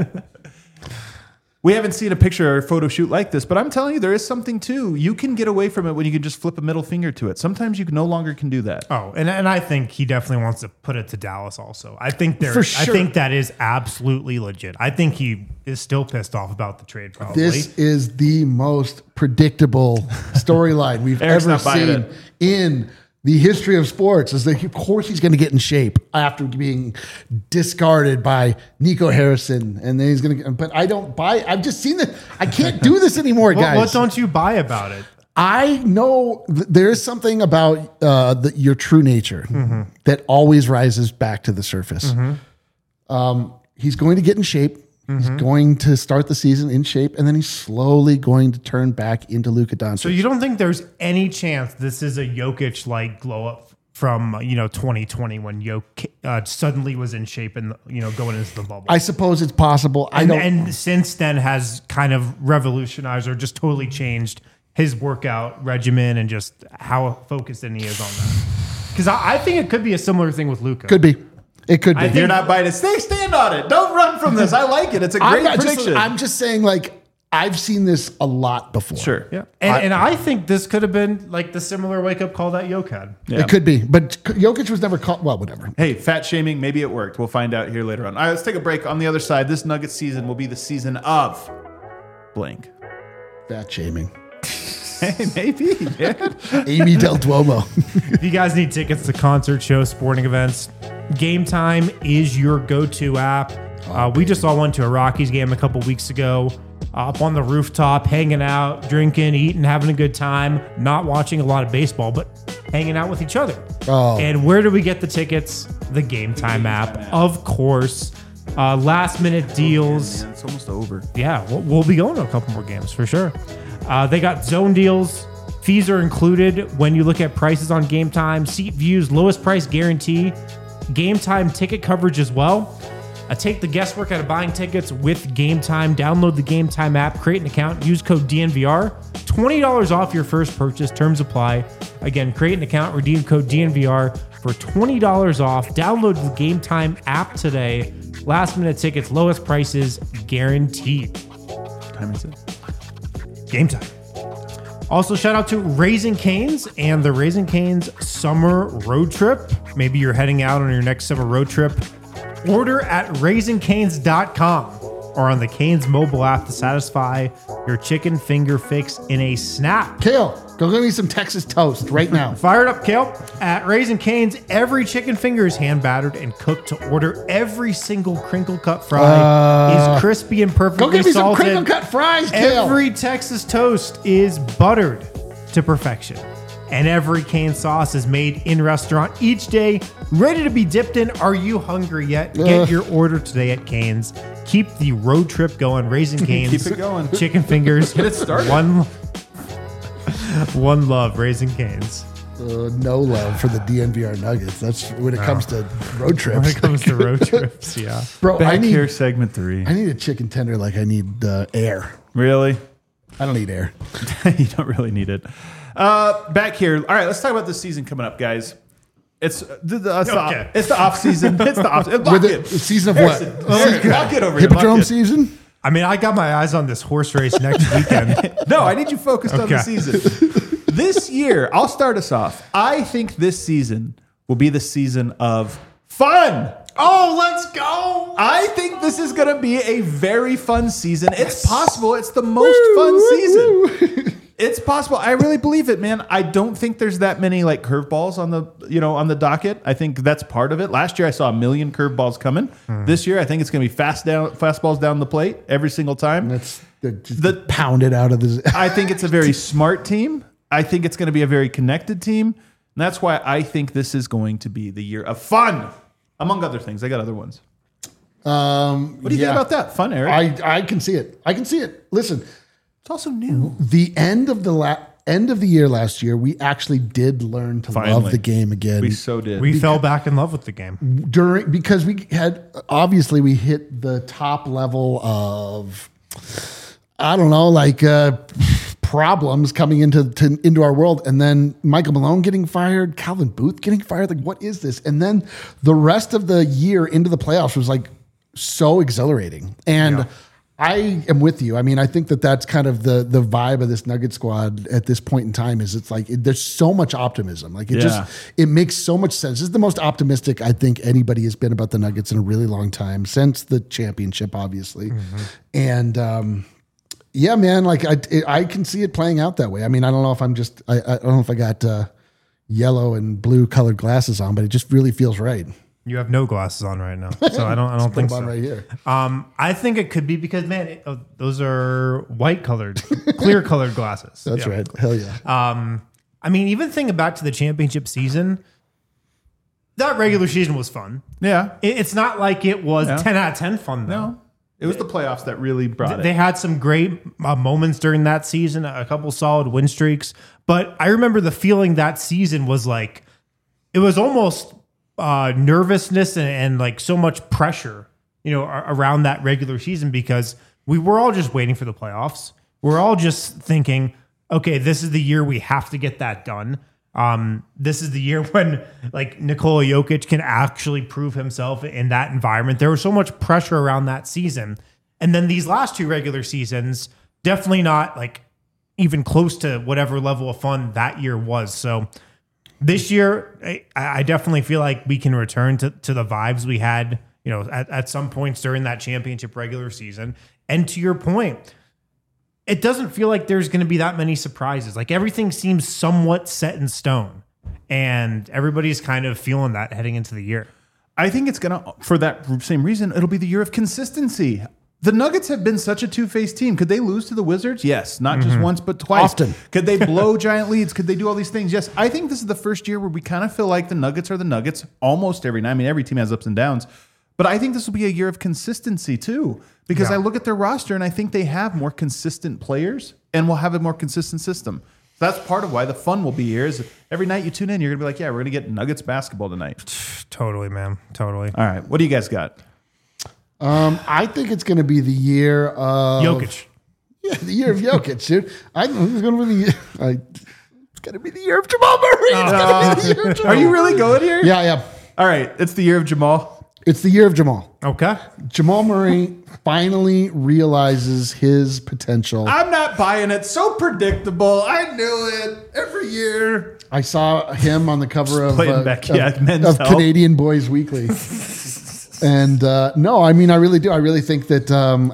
B: We haven't seen a picture or a photo shoot like this, but I'm telling you, there is something, too. You can get away from it when you can just flip a middle finger to it. Sometimes you no longer can do that.
C: Oh, and I think he definitely wants to put it to Dallas also. I think
A: For sure.
C: I think that is absolutely legit. I think he is still pissed off about the trade, probably.
A: This is the most predictable storyline we've
B: Eric's
A: ever
B: not buying
A: seen
B: it.
A: in the history of sports. Is that, of course, he's going to get in shape after being discarded by Nico Harrison, and then he's going to. But I don't buy. I've just seen that. I can't do this anymore, guys.
C: What don't you buy about it?
A: I know there is something about your true nature that always rises back to the surface. He's going to get in shape. He's going to start the season in shape, and then he's slowly going to turn back into Luka Doncic.
C: So you don't think there's any chance this is a Jokic-like glow-up from 2020 when Jokic suddenly was in shape and going into the bubble?
A: I suppose it's possible.
C: And since then has kind of revolutionized or just totally changed his workout regimen and just how focused in he is on that. Because I think it could be a similar thing with Luka.
A: Could be. It could be.
C: I think-
B: You're not buying it. Stand on it. Don't run from this. I like it. It's a great prediction.
A: I'm just saying, like, I've seen this a lot before.
B: Sure.
C: Yeah. And I think this could have been like the similar wake-up call that Jokic had.
B: Yeah.
A: It could be. But Jokic was never caught. Well, whatever.
B: Hey, fat shaming, maybe it worked. We'll find out here later on. All right, let's take a break. On the other side, this Nuggets season will be the season of blank.
A: Fat shaming.
B: Hey, maybe. Yeah.
A: Amy Del Duomo.
C: If you guys need tickets to concert shows, sporting events, Game Time is your go-to app. We just all went to a Rockies game a couple weeks ago, up on the rooftop, hanging out, drinking, eating, having a good time, not watching a lot of baseball, but hanging out with each other.
A: Oh.
C: And where do we get the tickets? The Game Time app, of course. Last-minute deals.
B: Man, it's almost over.
C: Yeah, we'll be going to a couple more games for sure. They got zone deals. Fees are included when you look at prices on Game Time. Seat views, lowest price guarantee. Game Time ticket coverage as well. Take the guesswork out of buying tickets with Game Time. Download the Game Time app, create an account, use code DNVR. $20 off your first purchase. Terms apply. Again, create an account, redeem code DNVR for $20 off. Download the Game Time app today. Last minute tickets, lowest prices guaranteed.
B: What time is it?
C: Game Time. Also, shout out to Raising Cane's and the Raising Cane's summer road trip. Maybe you're heading out on your next summer road trip. Order at raisingcanes.com or on the Cane's mobile app to satisfy your chicken finger fix in a snap.
A: Kale, go get me some Texas toast right now.
C: Fire it up, Kale. At Raising Cane's, every chicken finger is hand battered and cooked to order. Every single crinkle cut fry is crispy and perfectly
A: Go get me some
C: salted.
A: crinkle cut fries, Kale.
C: Every Texas toast is buttered to perfection. And every cane sauce is made in restaurant each day, ready to be dipped in. Are you hungry yet? Get your order today at Cane's. Keep the road trip going. Raising Cane's.
B: Keep it going.
C: Chicken fingers.
B: Get it started.
C: One love. Raising Cane's.
A: No love for the DNVR Nuggets. That's when it comes to road trips.
C: When it comes to road trips, yeah.
A: Bro,
B: Back
A: I need
B: here, segment 3.
A: I need a chicken tender like I need air.
B: Really?
A: I don't need air.
B: You don't really need it. Back here. All right, let's talk about this season coming up, guys. It's the off season. It's the off. Lock
A: With
B: it.
A: the season of what?
B: Lock it over here.
A: Hippodrome
B: Lock it.
A: season?
C: I mean, I got my eyes on this horse race next weekend.
B: No, I need you focused on the
C: Okay.
B: season. This year, I'll start us off. I think this season will be the season of fun.
C: Oh, let's go.
B: I think this is going to be a very fun season. It's possible. It's the most fun season. It's possible. I really believe it, man. I don't think there's that many like curveballs on the docket. I think that's part of it. Last year I saw 1 million curveballs coming. This year I think it's going to be fastballs down the plate every single time.
A: That's the pounded out of the.
B: I think it's a very smart team. I think it's going to be a very connected team. And that's why I think this is going to be the year of fun, among other things. I got other ones. What do you think about that? Fun, Eric?
A: I can see it. I can see it. Listen,
B: It's also new.
A: the end of the end of the year last year, we actually did learn to love the game again.
B: We so did.
C: We fell back in love with the game.
A: Because we hit the top level of, I don't know, like problems coming into our world. And then Michael Malone getting fired, Calvin Booth getting fired. Like, what is this? And then the rest of the year into the playoffs was like so exhilarating. And I am with you. I mean, I think that's kind of the vibe of this Nugget squad at this point in time is it's like there's so much optimism. Like it makes so much sense. This is the most optimistic I think anybody has been about the Nuggets in a really long time since the championship, obviously. And yeah, man, like I can see it playing out that way. I mean, I don't know if I don't know if I got yellow and blue colored glasses on, but it just really feels right.
C: You have no glasses on right now, so I don't think so.
A: Right here.
C: I think it could be because, man, those are white colored, clear colored glasses.
A: That's right. Hell yeah.
C: I mean, even thinking back to the championship season, that regular season was fun.
B: Yeah.
C: It's not like it was 10 out of 10 fun, though.
B: No. It was the playoffs that really brought it.
C: They had some great moments during that season, a couple solid win streaks. But I remember the feeling that season was like, it was almost nervousness and like so much pressure, around that regular season because we were all just waiting for the playoffs. We're all just thinking, okay, this is the year we have to get that done. This is the year when like Nikola Jokic can actually prove himself in that environment. There was so much pressure around that season. And then these last two regular seasons, definitely not like even close to whatever level of fun that year was. So this year, I definitely feel like we can return to the vibes we had, at some points during that championship regular season. And to your point, it doesn't feel like there's going to be that many surprises. Like everything seems somewhat set in stone, and everybody's kind of feeling that heading into the year.
B: I think it's going to, for that same reason, it'll be the year of consistency. The Nuggets have been such a two-faced team. Could they lose to the Wizards? Yes. Not just once, but twice.
A: Often.
B: Could they blow giant leads? Could they do all these things? Yes. I think this is the first year where we kind of feel like the Nuggets are the Nuggets almost every night. I mean, every team has ups and downs. But I think this will be a year of consistency too. Because I look at their roster and I think they have more consistent players and will have a more consistent system. That's part of why the fun will be here is every night you tune in, you're going to be like, yeah, we're going to get Nuggets basketball tonight.
C: Totally, man. Totally.
B: All right. What do you guys got?
A: I think it's going to be the year of
C: Jokic.
A: Yeah, the year of Jokic, dude. I think it's going to be it's going to be the year of Jamal Murray. It's going to be the year of Jamal.
B: Are you really going here?
A: Yeah.
B: All right. It's the year of Jamal.
A: It's the year of Jamal.
C: Okay.
A: Jamal Murray finally realizes his potential.
B: I'm not buying it. So predictable. I knew it every year.
A: I saw him on the cover of
B: Men's Health.
A: Canadian Boys Weekly. And no, I mean, I really do. I really think that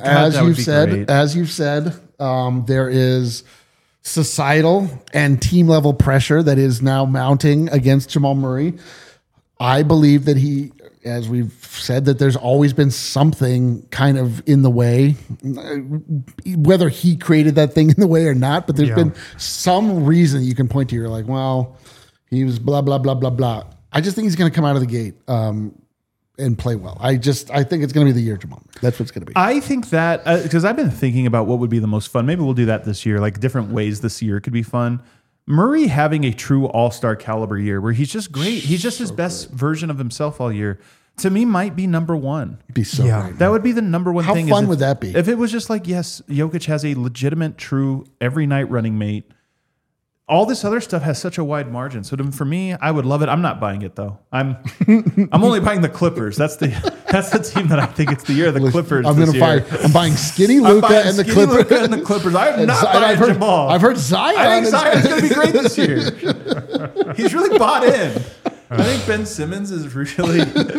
A: as you've said, there is societal and team level pressure that is now mounting against Jamal Murray. I believe that as we've said, that there's always been something kind of in the way, whether he created that thing in the way or not, but there's been some reason you can point to. You're like, well, he was blah, blah, blah, blah, blah. I just think he's going to come out of the gate and play well. I think it's going to be the year Jamal Murray. That's what it's going to be.
B: I think that, because I've been thinking about what would be the most fun. Maybe we'll do that this year, like different ways this year could be fun. Murray having a true all-star caliber year where he's just great. He's just his best version of himself all year. To me, might be number one.
A: It'd be so great.
B: That would be the number one thing.
A: How fun would that be?
B: If it was just like, yes, Jokic has a legitimate, true, every night running mate. All this other stuff has such a wide margin. So for me, I would love it. I'm not buying it though. I'm only buying the Clippers. That's the team that I think it's the year of the Clippers.
A: I'm buying Skinny Luka and the Clippers.
B: I'm not buying Jamal.
A: I've heard Zion.
B: I think Zion's going to be great this year. He's really bought in. I think Ben Simmons is really.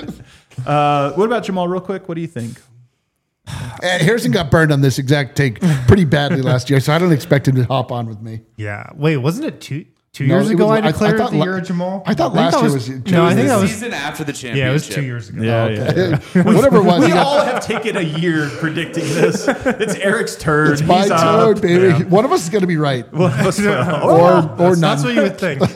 B: What about Jamal? Real quick, what do you think?
A: Harrison got burned on this exact take pretty badly last year, so I don't expect him to hop on with me.
C: Yeah. Wait, wasn't it two years ago I declared the year of Jamal?
A: I thought last year was...
C: No, I think that was...
D: season after the championship.
C: Yeah, it was 2 years ago.
B: Yeah.
A: Whatever it was.
B: We all have taken a year predicting this. It's Eric's turn.
A: It's my turn, baby. Yeah. One of us is going to be right.
B: Or
A: none.
C: That's what you would think.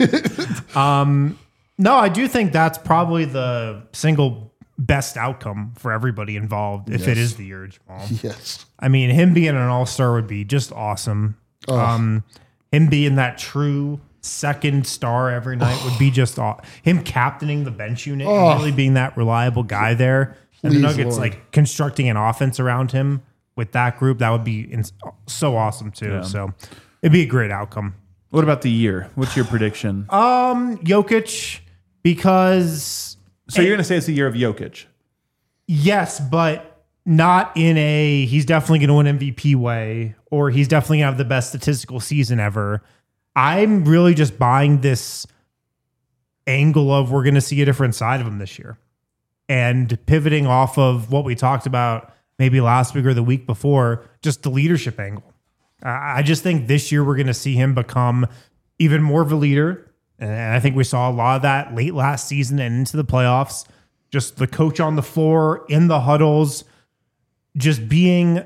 C: No, I do think that's probably the single best outcome for everybody involved if it is the year of Jamal.
A: Yes.
C: I mean, him being an all-star would be just awesome. him being that true second star every night would be just him captaining the bench unit and really being that reliable guy there. And the Nuggets like constructing an offense around him with that group, that would be so awesome too. Yeah. So it'd be a great outcome.
B: What about the year? What's your prediction?
C: Jokic, because
B: so you're going to say it's the year of Jokic?
C: Yes, but not in a he's definitely going to win MVP way, or he's definitely going to have the best statistical season ever. I'm really just buying this angle of we're going to see a different side of him this year. And pivoting off of what we talked about maybe last week or the week before, just the leadership angle. I just think this year we're going to see him become even more of a leader. And I think we saw a lot of that late last season and into the playoffs. Just the coach on the floor, in the huddles, just being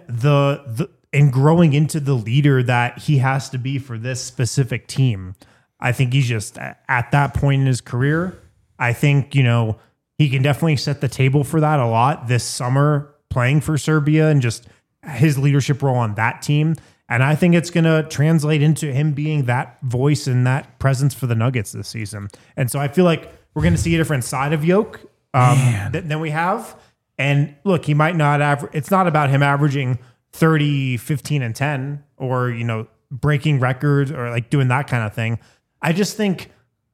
C: and growing into the leader that he has to be for this specific team. I think he's just at that point in his career. I think, he can definitely set the table for that a lot this summer playing for Serbia and just his leadership role on that team. And I think it's going to translate into him being that voice and that presence for the Nuggets this season. And so I feel like we're going to see a different side of Jokic than we have. And look, he might not average. It's not about him averaging 30, 15, and 10 or, breaking records or like doing that kind of thing. I just think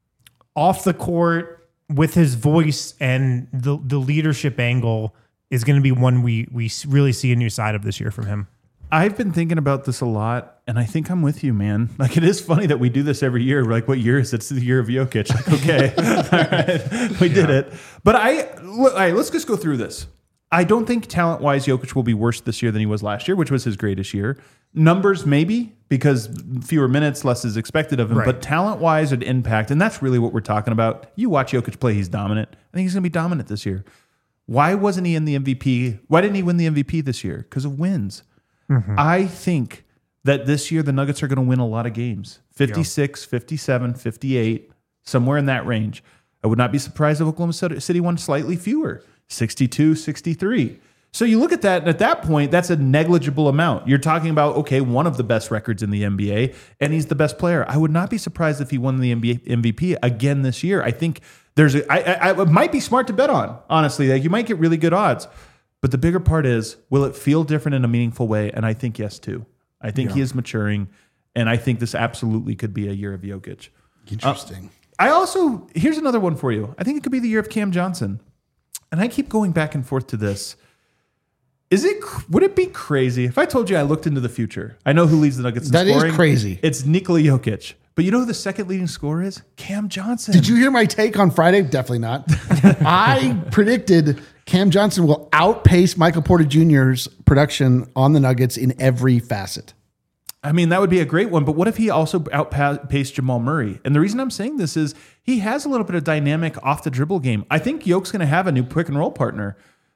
C: off the court with his voice and the leadership angle is going to be one we really see a new side of this year from him.
B: I've been thinking about this a lot, and I think I'm with you, man. Like, it is funny that we do this every year. We're like, what year is it? It's the year of Jokic. Like, okay, all right, we did it. But all right, let's just go through this. I don't think talent-wise Jokic will be worse this year than he was last year, which was his greatest year. Numbers, maybe, because fewer minutes, less is expected of him. Right. But talent-wise and impact, and that's really what we're talking about. You watch Jokic play, he's dominant. I think he's going to be dominant this year. Why wasn't he in the MVP? Why didn't he win the MVP this year? Because of wins. Mm-hmm. I think that this year the Nuggets are going to win a lot of games. 56, 57, 58, somewhere in that range. I would not be surprised if Oklahoma City won slightly fewer. 62, 63. So you look at that, and at that point, that's a negligible amount. You're talking about, okay, one of the best records in the NBA, and he's the best player. I would not be surprised if he won the NBA MVP again this year. I think it might be smart to bet on, honestly. Like, you might get really good odds. But the bigger part is, will it feel different in a meaningful way? And I think yes, too. I think he is maturing, and I think this absolutely could be a year of Jokic.
A: Interesting.
B: Here's another one for you. I think it could be the year of Cam Johnson. And I keep going back and forth to this. Would it be crazy if I told you I looked into the future? I know who leads the Nuggets in scoring.
A: That is crazy.
B: It's Nikola Jokic. But you know who the second leading scorer is? Cam Johnson.
A: Did you hear my take on Friday? Definitely not. I predicted Cam Johnson will outpace Michael Porter Jr.'s production on the Nuggets in every facet.
B: I mean, that would be a great one, but what if he also outpaced Jamal Murray? And the reason I'm saying this is he has a little bit of dynamic off the dribble game. I think Jokic's going to have a new pick and roll partner.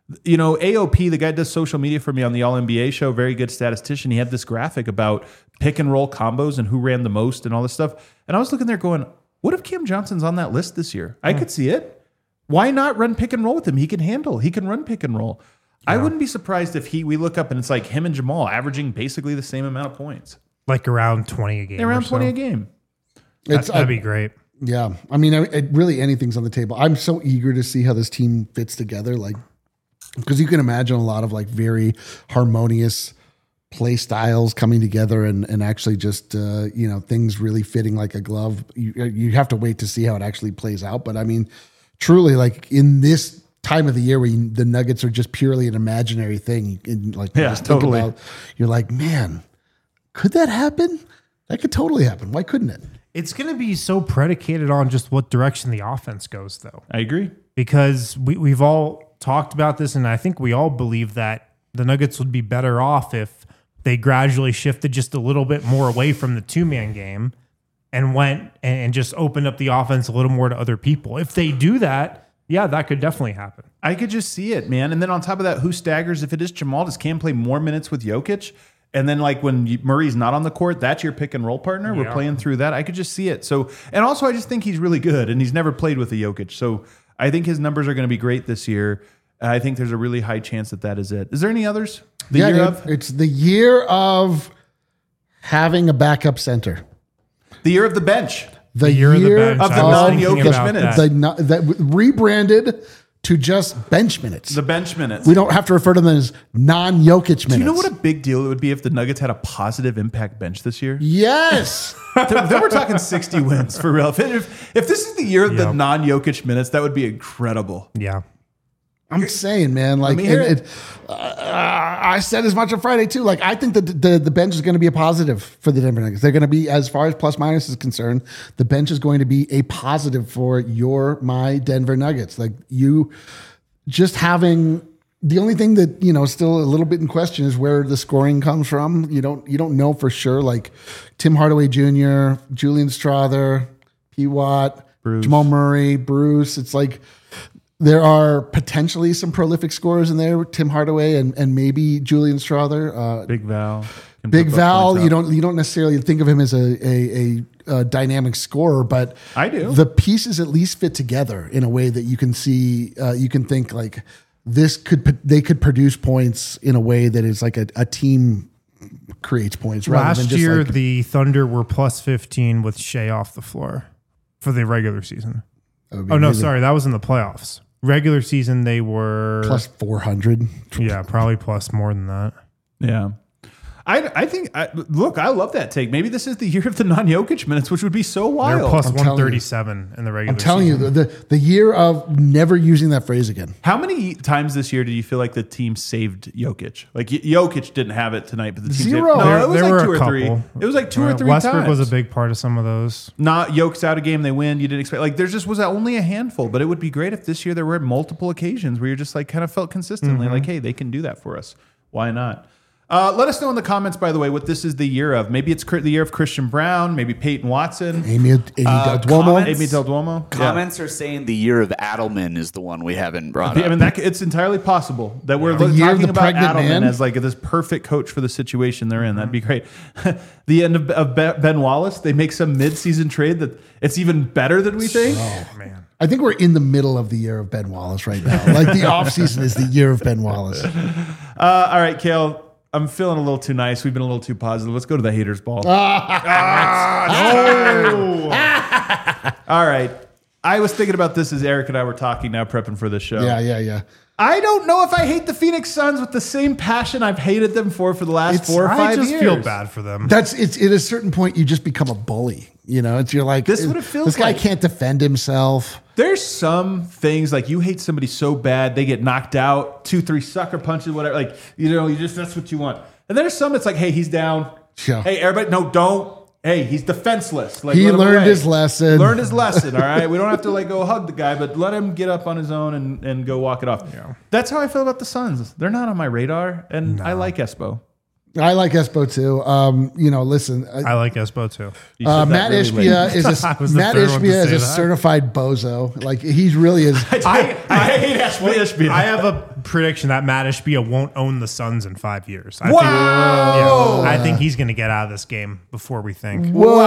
B: AOP, the guy does social media for me on the All NBA show, very good statistician. He had this graphic about pick and roll combos and who ran the most and all this stuff. And I was looking there going, what if Cam Johnson's on that list this year? I could see it. Why not run pick and roll with him? He can run pick and roll. Yeah. I wouldn't be surprised if we look up and it's like him and Jamal averaging basically the same amount of points.
C: Like around 20 a game.
B: Around 20 a game.
C: That'd be great.
A: Yeah. I mean, really anything's on the table. I'm so eager to see how this team fits together. Like, because you can imagine a lot of like very harmonious play styles coming together and actually just, things really fitting like a glove. You have to wait to see how it actually plays out. But I mean, truly, like in this time of the year where the Nuggets are just purely an imaginary thing, and like just totally. Think about, you're like, man, could that happen? That could totally happen. Why couldn't it?
C: It's going to be so predicated on just what direction the offense goes, though.
B: I agree.
C: Because we've all talked about this, and I think we all believe that the Nuggets would be better off if they gradually shifted just a little bit more away from the two-man game and went and just opened up the offense a little more to other people. If they do that, yeah, that could definitely happen.
B: I could just see it, man. And then on top of that, who staggers? If it is Jamal, does Cam play more minutes with Jokic? And then like when Murray's not on the court, that's your pick and roll partner. We're playing through that. I could just see it. So, and also I just think he's really good and he's never played with a Jokic. So I think his numbers are going to be great this year. I think there's a really high chance that is it. Is there any others?
A: It's the year of having a backup center.
B: The year of the bench.
A: The
C: year of the bench.
B: Of the
C: I was thinking
B: non-Jokic
C: about
B: minutes.
C: that.
A: that rebranded to just bench minutes.
B: The bench minutes.
A: We don't have to refer to them as non-Jokic minutes.
B: Do you know what a big deal it would be if the Nuggets had a positive impact bench this year?
A: Yes.
B: Then we're talking 60 wins for real. If this is the year of the
C: Yep.
B: non-Jokic minutes, that would be incredible.
C: Yeah.
A: I'm saying, man, like,
B: me hear
A: and
B: it.
A: I said as much on Friday too. Like, I think that the bench is going to be a positive for the Denver Nuggets. They're going to be, as far as plus minus is concerned, the bench is going to be a positive for my Denver Nuggets. Like, you just having the only thing that, you know, still a little bit in question is where the scoring comes from. You don't know for sure. Like Tim Hardaway Jr., Julian Strawther, P. Watt,
B: Bruce.
A: Jamal Murray, Bruce. It's like, there are potentially some prolific scorers in there, Tim Hardaway and maybe Julian Strawther.
B: Big Val. Can
A: Big
B: put
A: Val,
B: points up.
A: you don't necessarily think of him as a dynamic scorer, but
B: I do.
A: The pieces at least fit together in a way that you can see. You can think like they could produce points in a way that is like a team creates points. Rather than
C: Last
A: just
C: year,
A: like,
C: the Thunder were plus 15 with Shea off the floor for the regular season.
A: that would be
C: Oh, no,
A: amazing.
C: sorry. That was in the playoffs. Regular season, they were
A: Plus 400.
C: Yeah, probably plus more than that.
B: Yeah. I think, look, I love that take. Maybe this is the year of the non-Jokic minutes, which would be so
C: They're
B: wild.
C: plus
A: I'm telling you.
C: 137 in the regular
A: I'm telling
C: season.
A: you, the year of never using that phrase again.
B: How many times this year do you feel like the team saved Jokic? Like Jokic didn't have it tonight, but the team
A: Zero.
B: saved. No, it was
C: There
B: like
C: were
B: two
C: a
B: or three.
C: couple.
B: It was like two or three
C: Westbrook
B: times.
C: was a big part of some of those.
B: Not Jokic's out a game, they win. You didn't expect, like, there's just was only a handful, but it would be great if this year there were multiple occasions where you're just like kind of felt consistently like, hey, they can do that for us. Why not? Let us know in the comments, by the way, what this is the year of. Maybe it's the year of Christian Brown, maybe Peyton Watson,
A: Amy Del Duomo.
D: comments?
B: Amy Del Duomo. Yeah.
D: Comments are saying the year of Adelman is the one we haven't brought
B: I
D: up.
B: mean, it's entirely possible that we're
A: The year of
B: talking
A: the
B: about
A: pregnant
B: Adelman
A: man?
B: as like this perfect coach for the situation they're in. That'd be great. The end of Ben Wallace, they make some mid-season trade that it's even better than we think.
C: Oh, man.
A: I think we're in the middle of the year of Ben Wallace right now. Like the offseason is the year of Ben Wallace.
B: All right, Kale. I'm feeling a little too nice. We've been a little too positive. Let's go to the haters ball. No. All right. I was thinking about this as Eric and I were talking now, prepping for this show.
A: Yeah.
B: I don't know if I hate the Phoenix Suns with the same passion I've hated them for the last 4 or 5
C: I just
B: years.
C: feel bad for them.
A: It's at a certain point you just become a bully. You know, you're like
B: This is what it feels
A: This guy
B: like.
A: can't defend himself.
B: There's some things like you hate somebody so bad they get knocked out, 2-3 sucker punches, whatever. Like, you know, that's what you want. And there's some it's like, hey, he's down.
A: Yeah.
B: Hey, everybody, no, don't. Hey, he's defenseless. Like,
A: He
B: let him
A: learned
B: away.
A: his lesson.
B: He learned his lesson. All right, we don't have to like go hug the guy, but let him get up on his own and go walk it off.
C: Yeah.
B: That's how I feel about the Suns. They're not on my radar, and I like Espo.
A: I like Espo too. You know, listen,
C: I like Espo too.
B: You said that
A: Matt
B: really late.
A: Ishbia is
C: I was the
A: Matt
C: third one to
A: Ishbia is
C: say
A: a
C: that.
A: certified bozo. Like he really is.
B: I hate Ishbia.
C: I have a prediction that Matt Ishbia won't own the Suns in 5 years.
B: Wow.
C: I think he's going to get out of this game before we think.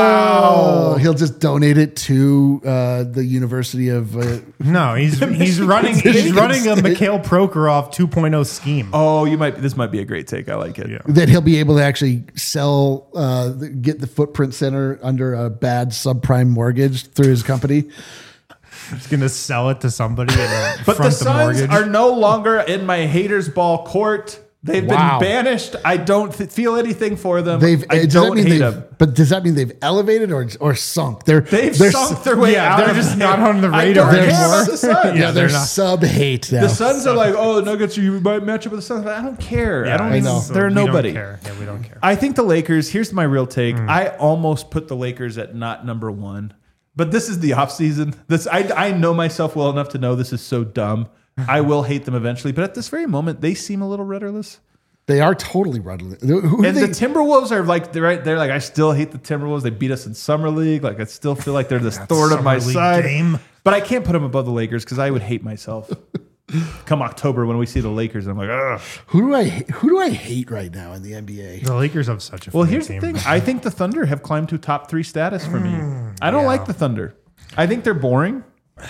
A: Whoa! He'll just donate it to the University of.
C: No, he's running a Mikhail Prokhorov 2.0 scheme.
B: Oh, this might be a great take. I like it.
C: Yeah.
A: That he'll be able to actually sell, get the Footprint Center under a bad subprime mortgage through his company.
C: He's going to sell it to somebody and
B: But the
C: front the
B: Suns
C: mortgage.
B: are no longer in my haters ball court. They've
A: Wow.
B: been banished. I don't feel anything for them.
A: They've.
B: I
A: Does
B: don't
A: that mean
B: hate
A: they've?
B: them.
A: But does that mean they've elevated or sunk? They're
B: Sunk their way out.
C: they're
B: of
C: just
B: it.
C: not on the
B: I
C: radar
B: don't care
A: anymore.
B: about the Suns.
A: Yeah,
C: Yeah,
A: they're
C: they're not.
A: sub hate now.
B: The Suns are like, oh, Nuggets, you might match up with the Suns. I don't care. I don't
A: I
B: even.
A: know.
B: They're
C: we
B: nobody.
C: Don't care. Yeah, we don't care.
B: I think the Lakers, here's my real take. I almost put the Lakers at not number one, but this is the offseason. I know myself well enough to know this is so dumb. I will hate them eventually, but at this very moment, they seem a little rudderless.
A: They are totally rudderless. Who
B: And
A: they,
B: the Timberwolves are like, they're like, I still hate the Timberwolves. They beat us in Summer League. Like, I still feel like they're this thorn of my
C: Summer League
B: side.
C: game.
B: But I can't put them above the Lakers because I would hate myself. Come October when we see the Lakers, I'm like, ugh.
A: who do I hate right now in the NBA?
C: The Lakers have such a
B: Well,
C: funny
B: here's
C: team.
B: the thing. I think the Thunder have climbed to top 3 status for me. I don't like the Thunder. I think they're boring.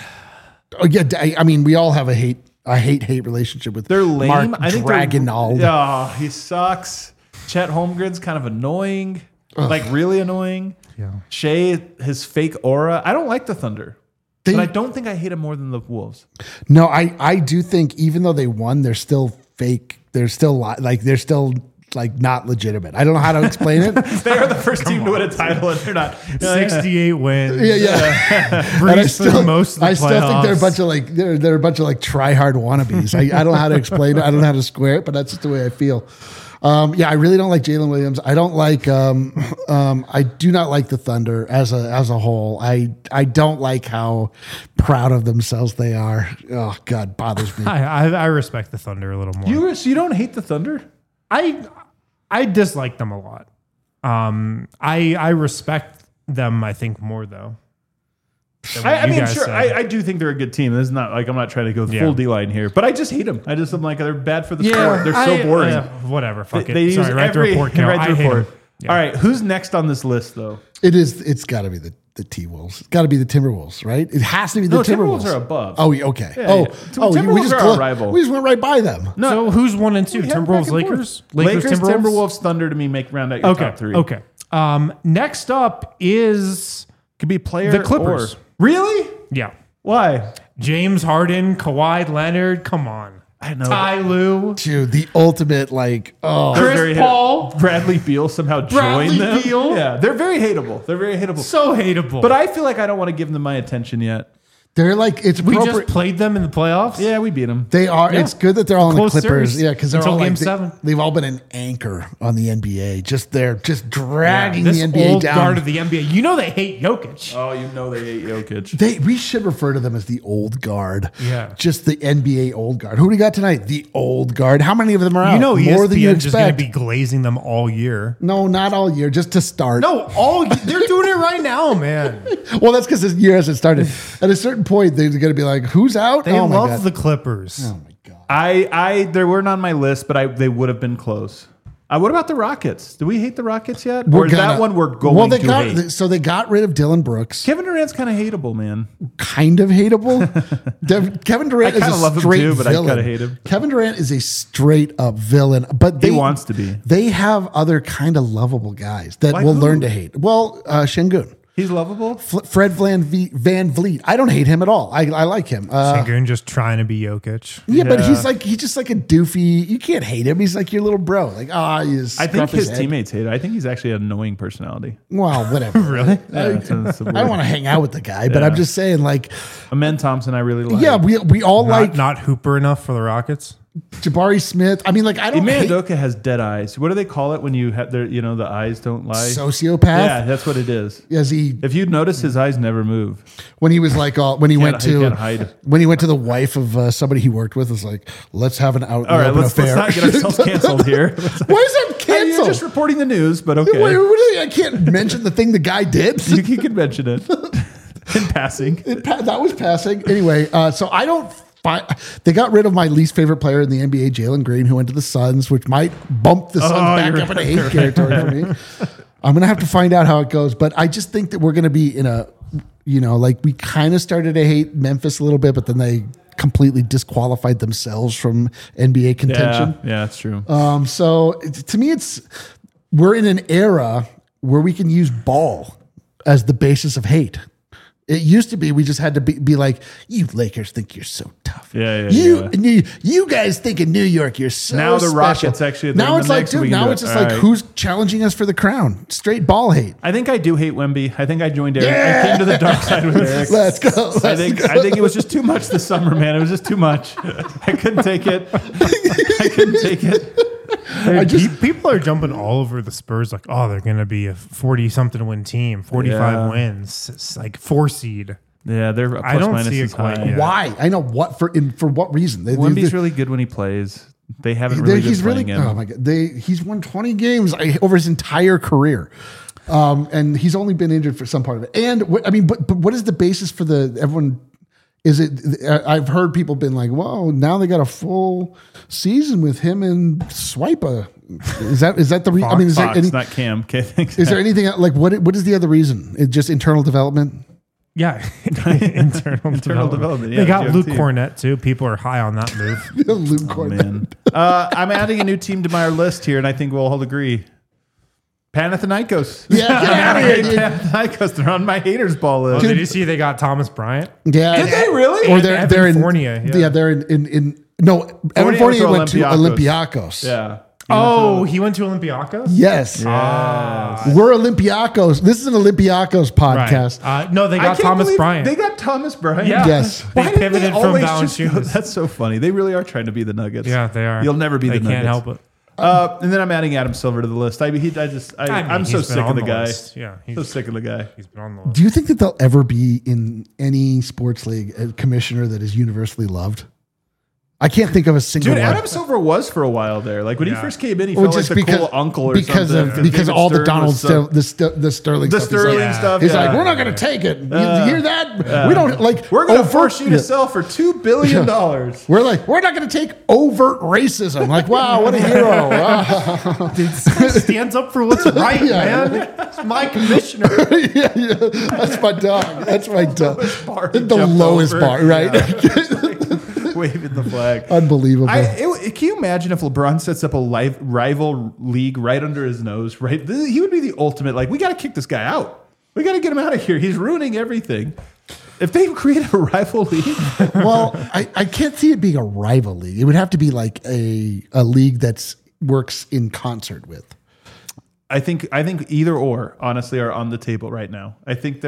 A: Oh yeah, I mean we all have a hate relationship with.
B: They're lame.
A: Mark
B: I think
A: Dragonald.
B: Oh, he sucks. Chet Holmgren's kind of annoying. Like really annoying.
C: Yeah.
B: Shea, his fake aura. I don't like the Thunder.
A: They-
B: But I don't think I hate him more than the Wolves.
A: No, I do think even though they won, they're still fake. They're still they're still like not legitimate. I don't know how to explain it.
B: They are the first team to win a title, and they're not.
C: 68 wins.
A: Yeah.
C: Breeze through most of the
A: I still think they're a
C: playoffs.
A: bunch of like they're a bunch of like try hard wannabes. I don't know how to explain it. I don't know how to square it, but that's just the way I feel. I really don't like Jalen Williams. I don't like. I do not like the Thunder as a whole. I don't like how proud of themselves they are. Oh God, bothers me.
C: I respect the Thunder a little more.
B: You don't hate the Thunder?
C: I dislike them a lot. I respect them, I think, more though. than what
B: I
C: you
B: mean,
C: guys
B: sure.
C: said.
B: I do think they're a good team. This is not like I'm not trying to go
C: Yeah.
B: full D line here, but I just hate them. I'm like they're bad for the sport. They're so boring.
C: Whatever. Fuck
B: They
C: it.
B: use
C: Sorry, write the
B: every
C: report. Cal.
B: write the
C: I hate
B: report.
C: them. Yeah.
B: All right, who's next on this list though?
A: It's got to be the T-Wolves. It's got to be the Timberwolves, right? It has to be the
B: No,
A: Timberwolves.
B: Timberwolves are above.
A: Oh, okay.
B: Yeah,
A: oh,
B: yeah. Timberwolves
A: we just
B: are our rival.
A: We just went right by them.
B: No.
C: So who's 1 and 2?
B: We have
C: Timberwolves,
B: back and
C: Lakers?
B: forth. Lakers,
C: Timberwolves?
B: Timberwolves, Thunder to me make round out your
C: Okay.
B: top three.
C: Okay. Next up is
B: Could be player
C: the Clippers.
B: or- Really?
C: yeah.
B: Why?
C: James Harden, Kawhi Leonard. Come on.
B: I know.
C: Ty Lue.
A: Dude, the ultimate like
C: Chris
B: very
C: Paul.
B: Bradley Beal somehow
C: Bradley
B: joined them.
C: Beal?
B: Yeah, they're very hateable. They're very hateable.
C: So hateable.
B: But I feel like I don't want to give them my attention yet.
A: they're like it's
C: we
A: appropriate.
C: just played them in the playoffs.
B: Yeah, we beat them.
A: They are.
C: Yeah.
A: It's good that they're all in the
C: Close
A: Clippers.
C: series
A: Yeah, because they're
C: until
A: all
C: Game
A: like
C: 7.
A: they've all been an anchor on the NBA. They're just dragging
C: This
A: the NBA
C: old
A: down.
C: guard of the NBA. You know they hate Jokic.
B: Oh, you know they hate Jokic.
A: We should refer to them as the old guard.
C: Yeah.
A: Just the NBA old guard. Who do we got tonight? The old guard. How many of them are out?
C: You know
A: More than you
C: ESPN's just going to
A: expect.
C: be glazing them all year.
A: No, not all year. Just to start.
C: No, they're doing it right now, man.
A: Well, that's because this year hasn't started. At a certain point, they're going to be like, "Who's out?"
C: They
A: oh my
C: love
A: God.
C: the Clippers.
A: Oh my God.
B: They weren't on my list, but they would have been close. What about the Rockets? Do we hate the Rockets yet? Or is that one we're going to hate?
A: So they got rid of Dylan Brooks.
B: Kevin Durant's kind of hateable, man.
A: Kind of hateable. Kevin Durant
B: I
A: is
B: kinda
A: a
B: love him
A: straight
B: too, but I
A: villain.
B: kinda hate him.
A: Kevin Durant is a straight up villain, but
B: He wants to be.
A: They have other kind of lovable guys that
B: Like
A: will
B: who?
A: learn to hate. Well, Şengün.
B: He's lovable.
A: Fred Van Vliet. I don't hate him at all. I like him.
C: Şengün just trying to be Jokic.
A: Yeah, but
B: Yeah.
A: he's just like a doofy. You can't hate him. He's like your little bro. Like he's.
B: I think his teammates hate it. I think he's actually an annoying personality.
A: Well, whatever.
C: Really?
B: Yeah, it's
A: I don't want to hang out with the guy, but I'm just saying, like,
B: Amen Thompson, I really like.
A: yeah, we all like
C: Not Hooper enough for the Rockets.
A: Jabari Smith. I mean, like, I don't
B: Ime
A: hate
B: Udoka has dead eyes. What do they call it when you have their, the eyes don't lie?
A: sociopath.
B: Yeah, that's what it is.
A: As
B: If you'd notice, his eyes never move.
A: when he was like when he went
B: he
A: to
B: can't hide.
A: when he went to the wife of somebody he worked with, was like, let's have an out in
B: All
A: the
B: right,
A: open
B: let's
A: affair.
B: not get ourselves canceled here.
A: Why is that
B: You're
A: canceled?
B: just reporting the news, but okay.
A: I can't mention the thing the guy did.
B: You can mention it in passing.
A: That was passing. Anyway, so I don't. They got rid of my least favorite player in the NBA, Jalen Green, who went to the Suns, which might bump the Suns back
B: you're
A: up into hate territory for me. I'm gonna have to find out how it goes, but I just think that we're gonna be in a, like we kind of started to hate Memphis a little bit, but then they completely disqualified themselves from NBA contention.
B: Yeah, that's true.
A: So to me, we're in an era where we can use ball as the basis of hate. It used to be we just had to be like, you Lakers think you're so tough.
B: Yeah.
A: You guys think in New York you're so
B: Now the
A: special.
B: Rockets actually.
A: Now
B: they're
A: it's
B: the
A: like,
B: next, we
A: dude.
B: can
A: Now
B: do
A: it's
B: it.
A: just
B: All
A: like,
B: right.
A: who's challenging us for the crown? Straight ball hate.
B: I think I do hate Wemby. I think I joined Eric. I came to the dark side with Eric.
A: Let's go.
B: I think it was just too much this summer, man. It was just too much. I couldn't take it.
C: People are jumping all over the Spurs like, oh, they're going to be a 40-something win team, 45 wins. It's like 4 seed.
B: Yeah, they're plus
C: I don't
B: minus
C: see it
B: is high.
C: quite yet.
A: Why? I know what for what reason.
B: Wemby's really good when he plays. They haven't really been playing him.
A: Oh my god! He's won 20 games over his entire career, and he's only been injured for some part of it. And but what is the basis for everyone? Is it? I've heard people been like, "Whoa, now they got a full season with him and Swipa." Is that the reason? I mean, is
B: Fox,
A: there any?
B: not Cam. Okay, thanks.
A: Is there anything like what is the other reason? It's just internal development.
C: Yeah, internal development.
B: Yeah,
C: they got Luke
B: GOT.
C: Cornett too. People are high on that move.
A: Luke Cornett.
B: Man. I'm adding a new team to my list here, and I think we'll all agree. Panathinaikos.
A: Yeah, get out of here, dude.
B: Panathinaikos. They're on my haters ball list.
C: Did you see they got Thomas Bryant?
A: Yeah.
B: Did they really?
A: Or they're
C: Evan
A: in
C: Fournier, yeah.
A: they're in no, Evan
B: Fournier
A: Fournier
B: went
A: went
B: to
A: to
B: Olympiacos.
A: Olympiacos.
B: Yeah.
C: Oh, he went to Olympiacos?
A: Yes.
C: Ah.
A: We're Olympiacos. This is an Olympiacos podcast.
C: Right. No, they
B: I
C: got
B: can't
C: Thomas
B: believe
C: Bryant.
B: They got Thomas Bryant.
C: Yeah.
A: Yes.
C: They
B: Why did
C: pivoted from
B: always just go-
C: Valanciunas.
B: That's so funny. They really are trying to be the Nuggets.
C: Yeah, they are.
B: You'll never be
C: they
B: the Nuggets.
C: can't help it.
B: And then I'm adding Adam Silver to the list. I'm so
C: he's been
B: sick of
C: on
B: the guy.
C: list. Yeah,
B: So sick of the guy.
C: he's been on the list.
A: Do you think that there'll ever be in any sports league a commissioner that is universally loved? I can't think of a single
B: Dude,
A: one.
B: Adam Silver was for a while there. Like when he
C: Yeah.
B: first came in, he
A: Well,
B: felt like the cool uncle or
A: because
B: something.
A: of because
B: David
A: all the
B: Stern
A: Donald
B: was so-
A: the Sterling
B: the
A: stuff. He's
B: Sterling
A: like,
B: stuff.
A: He's
B: yeah.
A: like, we're not going to take it. You hear that? We don't like.
B: We're going to
A: overt-
B: force you to sell for $2 billion.
A: We're like, we're not going to take overt racism. Like, wow, what a hero! Wow.
C: Dude, this guy stands up for what's right,
A: Yeah.
C: man. It's my commissioner.
A: yeah, that's my dog. That's my dog.
B: bar he
A: The
B: jumped
A: lowest
B: over.
A: bar, right?
B: Waving the flag.
A: Unbelievable.
B: Can you imagine if LeBron sets up a rival league right under his nose? Right, he would be the ultimate. Like, we got to kick this guy out. We got to get him out of here. He's ruining everything. If they create a rival league,
A: Well, I can't see it being a rival league. It would have to be like a league that's works in concert with.
B: I think either or honestly are on the table right now. I think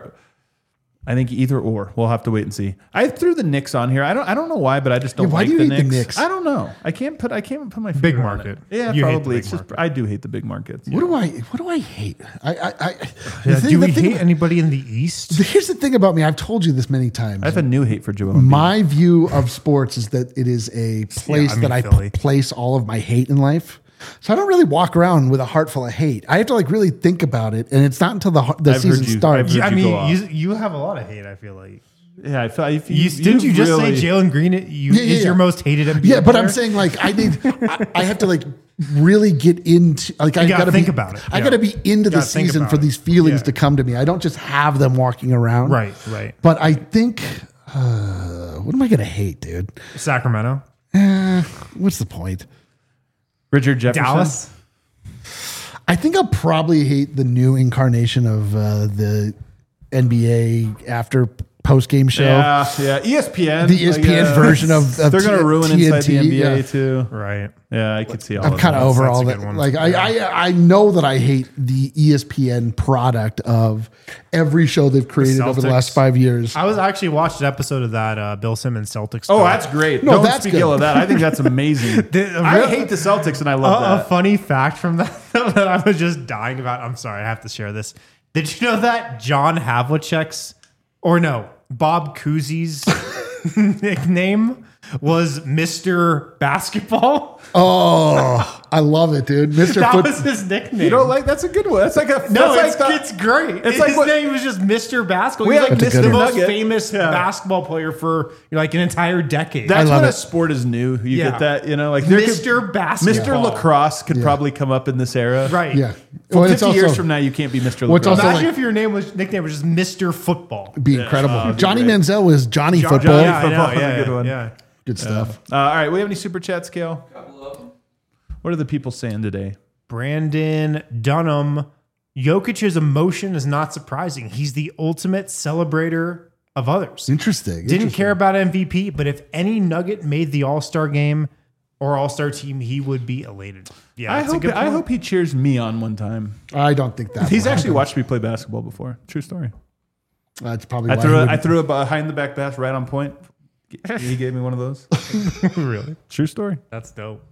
B: either or. We'll have to wait and see. I threw the Knicks on here. I don't know why, but I just don't
A: Yeah, why
B: like
A: do you
B: the
A: hate the
B: Knicks.
A: Knicks?
B: I don't know. I can't put my finger
C: Big
B: on
C: market.
B: it. Yeah,
C: You hate the
B: probably.
C: big
B: It's just
C: market.
B: I do hate the big markets.
A: What do I hate?
C: Do we hate anybody in the East?
A: Here's the thing about me. I've told you this many times.
B: I have a new hate for Joel Embiid.
A: My view of sports is that it is a place that I
C: Philly.
A: place all of my hate in life. So I don't really walk around with a heart full of hate. I have to like really think about it, and it's not until the
B: I've
A: season
B: heard you-
A: starts.
B: I've
C: I
B: heard you go
C: mean,
B: off.
C: you have a lot of hate, I feel like.
B: Yeah, I feel if
C: Didn't you just
B: really,
C: say Jalen Green is
A: yeah.
C: your most hated NBA
A: Yeah, but
C: player?
A: I'm saying like I have to like really get into like I
C: gotta
A: gotta
C: think
A: be,
C: about it.
A: I
C: Yeah.
A: gotta be into the
C: Gotta think
A: season
C: about
A: for
C: it.
A: these feelings
C: Yeah.
A: to come to me. I don't just have them walking around.
C: Right.
A: But I think what am I gonna hate, dude?
C: Sacramento.
A: What's the point?
B: Richard Jefferson.
C: Dallas.
A: I think I'll probably hate the new incarnation of the NBA after post game show.
B: Yeah, ESPN.
A: The ESPN version of
B: they're going to ruin inside the
A: TNT,
B: NBA
A: yeah.
B: too.
C: Right.
B: Yeah, I could see all
A: I'm
B: of
A: kind
B: that.
A: of over
C: That's
A: all
C: a
A: that.
C: good one.
A: Like I know that I hate the ESPN product of every show they've created over the
C: Celtics.
A: last 5 years.
C: I was actually watched an episode of that Bill Simmons Celtics.
B: Oh,
C: stuff.
B: that's great.
A: No,
B: Don't
A: that's
B: speak
A: good.
B: ill of that. I think that's amazing. I hate the Celtics and I love
C: A
B: that.
C: funny fact from that that I was just dying about. I'm sorry, I have to share this. Did you know that John Havlicek's, or no, Bob Cousy's nickname was Mr. Basketball?
A: Oh, I love it, dude. Mr.
C: That
A: Foot.
C: was his nickname.
B: You don't like that's a good one. That's like a
C: No,
B: that's
C: it's great.
B: It's
C: His
B: like what-
C: name was just Mr. Basketball.
B: We
C: He was
B: have
C: like
A: Mr.
C: the most
B: Nugget.
C: famous
B: Yeah.
C: basketball player for like an entire decade.
B: That's
A: love
B: when
A: it.
B: a sport is new. You
C: Yeah.
B: get that, you know, like there could-
C: Mr. Basketball.
B: Mr. Lacrosse could probably come up in this era.
C: Right.
A: Yeah.
B: Well,
A: Well,
B: 50 years from now, you can't be Mr.
A: Well, it's
B: Lacrosse.
A: also
C: Imagine
A: like-
C: if your nickname was just Mr. Football.
A: be incredible.
B: it'd be
A: Johnny
B: great.
A: Manziel was Johnny Football.
B: Johnny
C: Yeah, I
B: Football
C: know,
B: is a
C: yeah,
B: good one.
C: Yeah.
A: Good stuff.
B: All right, we have any super chats, Kale? What are the people saying today?
C: Brandon Dunham. Jokic's emotion is not surprising. He's the ultimate celebrator of others.
A: Interesting.
C: Didn't care about MVP, but if any Nugget made the All-Star game or All-Star team, he would be elated. Yeah,
B: I
C: that's a good point.
B: hope he cheers me on one time.
A: I don't think that.
B: He's
A: will
B: actually
A: happen.
B: watched me play basketball before. True story.
A: That's probably
B: I
A: why
B: threw
A: he
B: a, I
A: wouldn't-
B: threw a behind the back pass right on point. He gave me one of those.
C: Really?
B: True story.
C: That's dope.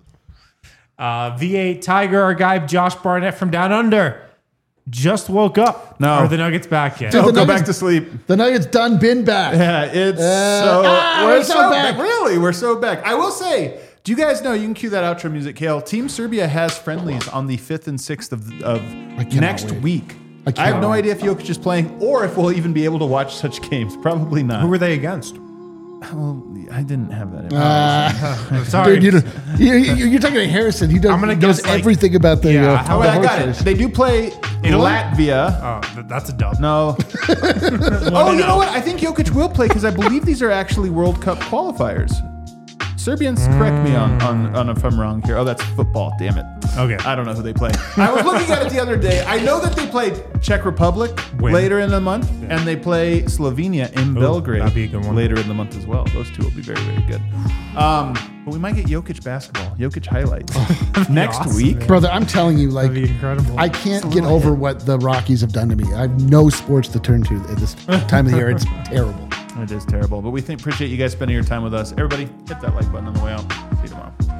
C: V8 Tiger, our guy Josh Barnett from Down Under, just woke up.
B: No.
C: Are the Nuggets back yet?
A: Dude,
B: Don't
A: the
B: go
A: Nuggets-
B: back to sleep.
A: The Nuggets done been back.
B: Yeah, it's
A: we're so back.
B: Really, we're so back. I will say, do you guys know? You can cue that outro music, Kale. Team Serbia has friendlies on the 5th and 6th of
A: cannot
B: next
A: wait.
B: week.
A: I
B: I have
A: cannot
B: no
A: wait.
B: idea if Jokic is playing or if we'll even be able to watch such games. Probably not.
C: Who were they against?
B: Well, I didn't have that. In
C: Sorry.
A: Dude, you're talking to Harrison. He does,
C: I'm gonna
A: knows
C: guess, like-
A: everything about the.
C: Yeah, how-
B: Oh,
A: the
B: wait, I got
A: horse
B: it.
A: race.
B: They do play Latvia.
C: Oh, that's a dub.
B: No. Oh, you know what? I think Jokic will play because I believe these are actually World Cup qualifiers. Serbians, correct me on if I'm wrong here. Oh, that's football. Damn it.
C: Okay.
B: I don't know who they play. I was looking at it the other day. I know that they play Czech Republic later in the month, and they play Slovenia in Belgrade
C: that'd be a good one.
B: later in the month as well. Those two will be very, very good. But we might get Jokic basketball, Jokic highlights next
C: awesome,
B: week.
C: man.
A: Brother, I'm telling you, like,
C: That'd be incredible.
A: I can't get over what the Rockies have done to me. I have no sports to turn to at this time of the year. It's terrible.
B: It is terrible, but we appreciate you guys spending your time with us. Everybody, hit that like button on the way out. See you tomorrow.